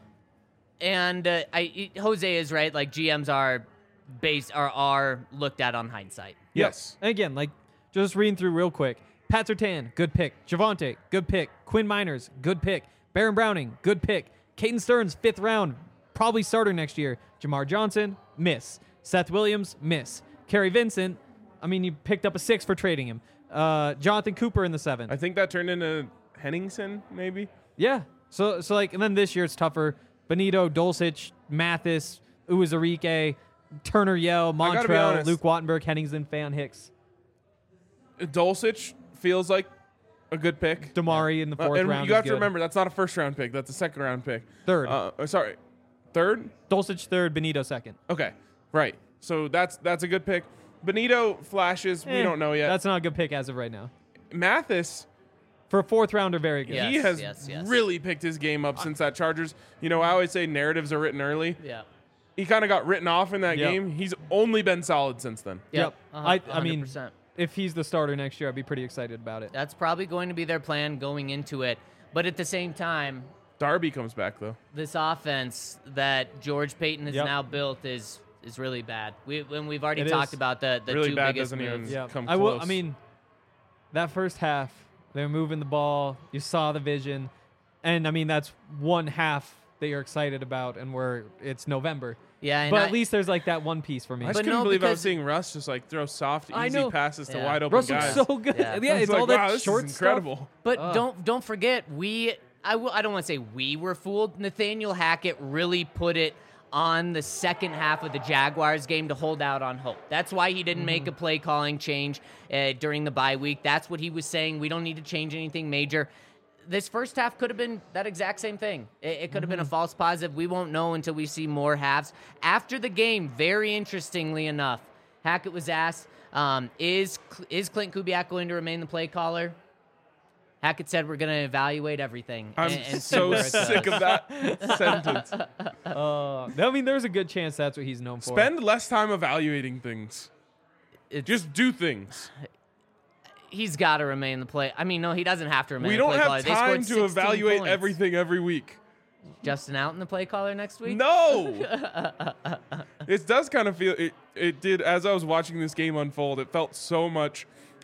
and uh, I Jose is right. Like G Ms are based are are looked at on hindsight. Yes. And again, like just reading through real quick. Pat Surtain, good pick. Javonte, good pick. Quinn Miners, good pick. Baron Browning, good pick. Caden Stearns, fifth round, probably starter next year. Jamar Johnson, miss. Seth Williams, miss. Kerry Vincent, I mean, you picked up a six for trading him. Uh, Jonathan Cooper in the seventh. I think that turned into Henningsen, maybe. Yeah. So so like, and then this year it's tougher. Benito, Dulcich, Mathis, Uwazurike, Turner Yell, gotta be Montrell, honest. Luke Wattenberg, Henningsen, Fan Hicks, Dulcich feels like a good pick. Damari in the Uh, fourth and round. you is have to good. remember, that's not a first-round pick. That's a second-round pick. Third. Uh, uh, sorry. Third? Dulcich third, Benito second. Okay. Right. So that's that's a good pick. Benito flashes. we Eh, don't know yet. That's not a good pick as of right now. Mathis, For a fourth rounder, very good. Yeah. he Yes, has yes, yes. really picked his game up since that Chargers. You know, I always say narratives are written early. Yeah. He kind of got written off in that Yep. game. He's only been solid since then. Yep. I, A I hun- mean, one hundred percent. if he's the starter next year, I'd be pretty excited about it. That's probably going to be their plan going into it. But at the same time, Darby comes back, though. this offense that George Payton has Yep. now built is is really bad. We when we've already It talked is. about the the Really two bad biggest doesn't even- moves. Yeah, come I will. I close. mean, that first half, they were moving the ball. You saw the vision, and I mean that's one half that you're excited about, and where it's November. Yeah, and But I- at least there's like that one piece for me. I just But couldn't no, believe I was because- seeing Russ just like throw soft, I easy know. passes to Yeah. wide open Russ guys. looks so good. Yeah. Yeah, I was it's like, all wow, that this short is stuff. incredible. But Ugh. don't don't forget we I w- I don't want to say we were fooled. Nathaniel Hackett really put it on the second half of the Jaguars game to hold out on hope. That's why he didn't make a play calling change uh, during the bye week. That's what he was saying. We don't need to change anything major. This first half could have been that exact same thing. It, it could have been a false positive. We won't know until we see more halves. After the game, very interestingly enough, Hackett was asked, um, is is Clint Kubiak going to remain the play caller? Hackett said, we're going to evaluate everything. I'm and, and see so where it sick goes." of that sentence. Uh, I mean, there's a good chance that's what he's known for. Spend less time evaluating things. It's- Just do things. He's got to remain the play. I mean, no, he doesn't have to remain We the don't play caller. have They scored time to sixteen evaluate points. everything every week. Justin out in the play caller next week? No. It does kind of feel it. It did as I was watching this game unfold. It felt so much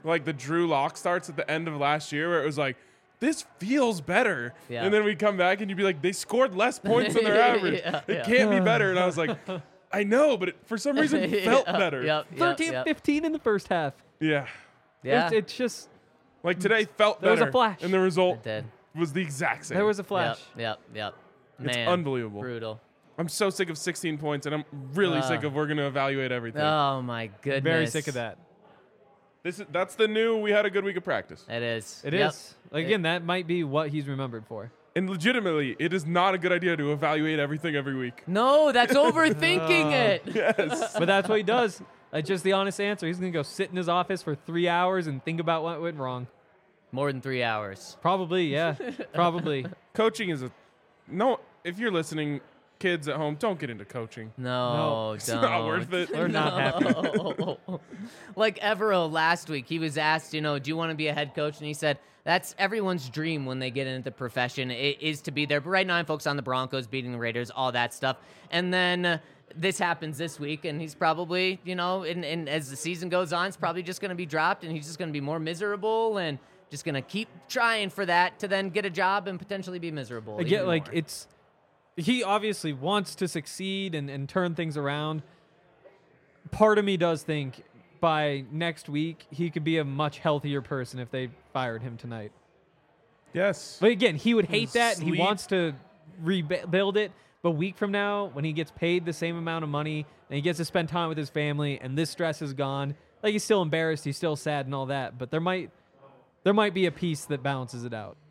like the Drew Lock starts at the end of last year where it was like, this feels better. Yeah. And then we come back and you'd be like, they scored less points than their average. Yeah, it yeah. can't be better. And I was like, I know, but it, for some reason it felt Yep, better. Yep, yep, thirteen yep. fifteen in the first half. Yeah. Yeah, It's, it's just, Like today felt There was a better. flash. And the result it did. was the exact same. there was a flash. Yep, yep, yep. It's Man, unbelievable. Brutal. I'm so sick of sixteen points, and I'm really Uh. sick of we're going to evaluate everything. Oh my goodness. Very sick of that. This is That's the new, we had a good week of practice. It is. It Yep. is. Like, again, that might be what he's remembered for. And legitimately, it is not a good idea to evaluate everything every week. No, that's overthinking it. Yes. But that's what he does. That's just the honest answer. He's going to go sit in his office for three hours and think about what went wrong. More than three hours. Probably, yeah. Probably. Coaching is a no. If you're listening, kids at home, don't get into coaching. No, No, It's don't. not worth it. We're not happy. No. Like Evero last week, he was asked, you know, do you want to be a head coach? And he said, that's everyone's dream when they get into the profession, it is to be there. But right now I'm focused on the Broncos, beating the Raiders, all that stuff. And then uh, this happens this week, and he's probably, you know, and, and as the season goes on, it's probably just going to be dropped, and he's just going to be more miserable and just going to keep trying for that to then get a job and potentially be miserable. Again, even like, more. it's, he obviously wants to succeed and, and turn things around. Part of me does think by next week, he could be a much healthier person if they fired him tonight. Yes. But again, he would hate that, and he Sleep. wants to rebuild it. But a week from now, when he gets paid the same amount of money and he gets to spend time with his family, and this stress is gone, like, he's still embarrassed, he's still sad, and all that. But there might, there might be a piece that balances it out.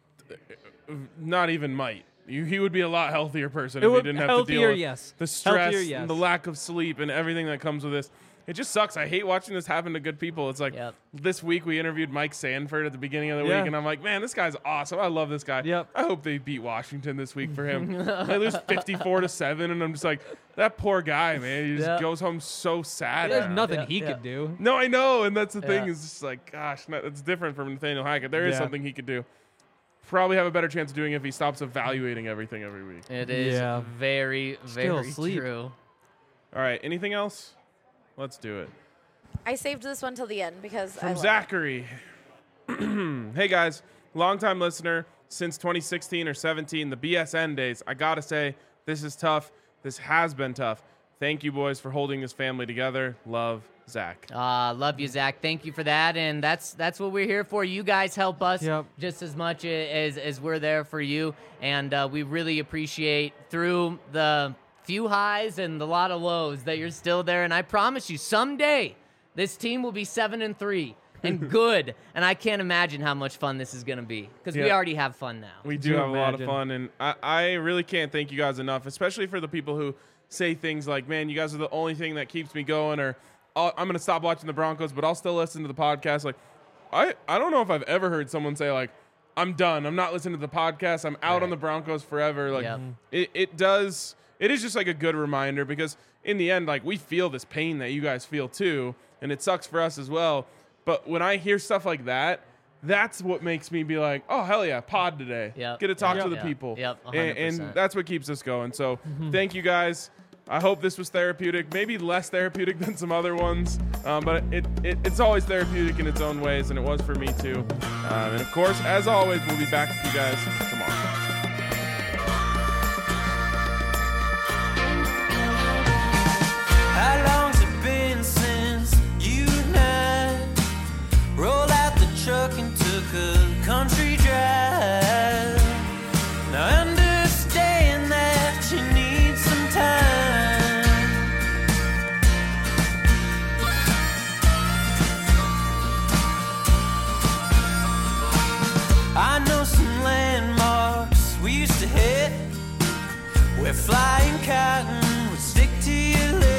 Not even might. You, he would be a lot healthier person It if he would- didn't have to deal healthier, with yes. the stress, Healthier, yes. and the lack of sleep, and everything that comes with this. It just sucks. I hate watching this happen to good people. It's like Yep. this week we interviewed Mike Sanford at the beginning of the Yeah. week, and I'm like, man, this guy's awesome. I love this guy. Yep. I hope they beat Washington this week for him. They lose fifty-four to seven, and I'm just like, that poor guy, man. He just Yep. goes home so sad. There's now. nothing Yeah, he yeah. could do. No, I know, and that's the thing. Yeah. Is just like, gosh, no, it's different from Nathaniel Hackett. There is Yeah. something he could do. Probably have a better chance of doing it if he stops evaluating everything every week. It is Yeah. very, Still very sleep. true. All right, anything else? Let's do it. I saved this one till the end because I From love it. Zachary. Hey guys, longtime listener since twenty sixteen or seventeen, the B S N days. I gotta say, this is tough. This has been tough. Thank you, boys, for holding this family together. Love, Zach. Uh, love you, Zach. Thank you for that, and that's that's what we're here for. You guys help us Yep. just as much as as we're there for you, and uh, we really appreciate through the few highs and the lot of lows that you're still there. And I promise you, someday this team will be seven and three and good. And I can't imagine how much fun this is gonna be because we Yeah. already have fun now. We Could do you have a lot of imagine? fun, and I, I really can't thank you guys enough, especially for the people who say things like, man, you guys are the only thing that keeps me going, or "I'll- I'm going to stop watching the Broncos, but I'll still listen to the podcast. Like, I, I don't know if I've ever heard someone say, like, I'm done. I'm not listening to the podcast. I'm out Right. on the Broncos forever. Like, Yep. it, it does, it is just like a good reminder because in the end, like, we feel this pain that you guys feel too, and it sucks for us as well. But when I hear stuff like that, that's what makes me be like, oh, hell yeah, pod today. Yep. Get to talk Yep. to the Yep. people. Yep, one And, hundred percent. and that's what keeps us going. So thank you guys. I hope this was therapeutic, maybe less therapeutic than some other ones, um, but it, it it's always therapeutic in its own ways, and it was for me too. Um, and of course, as always, we'll be back with you guys tomorrow. How long's it been since you and I rolled out the truck and took a country drive? Now I understand that you need some time. I know some landmarks we used to hit where flying cotton would stick to your lips.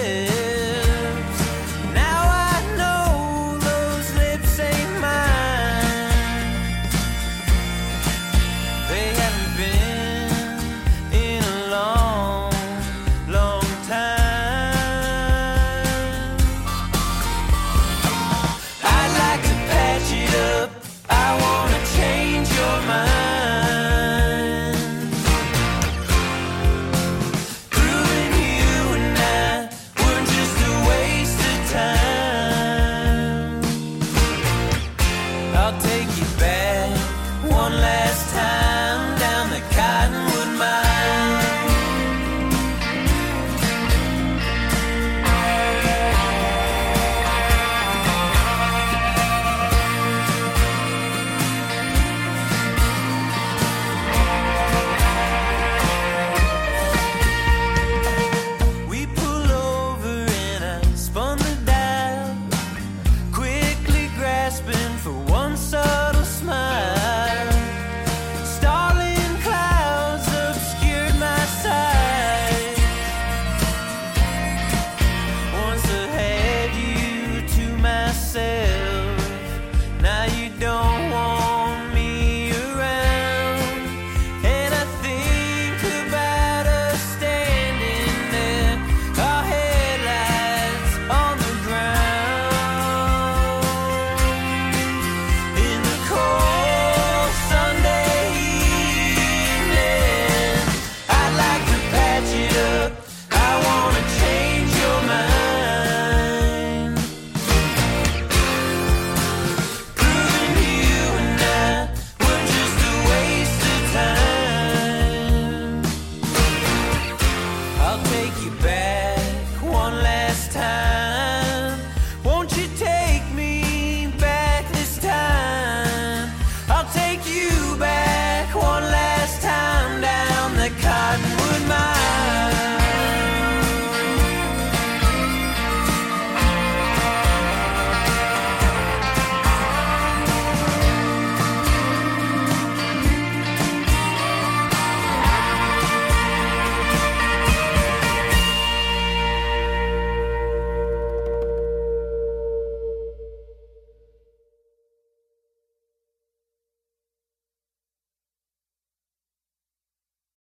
Now I know those lips ain't mine. They haven't been in a long, long time. I'd like to patch it up. I wanna change your mind. Through time.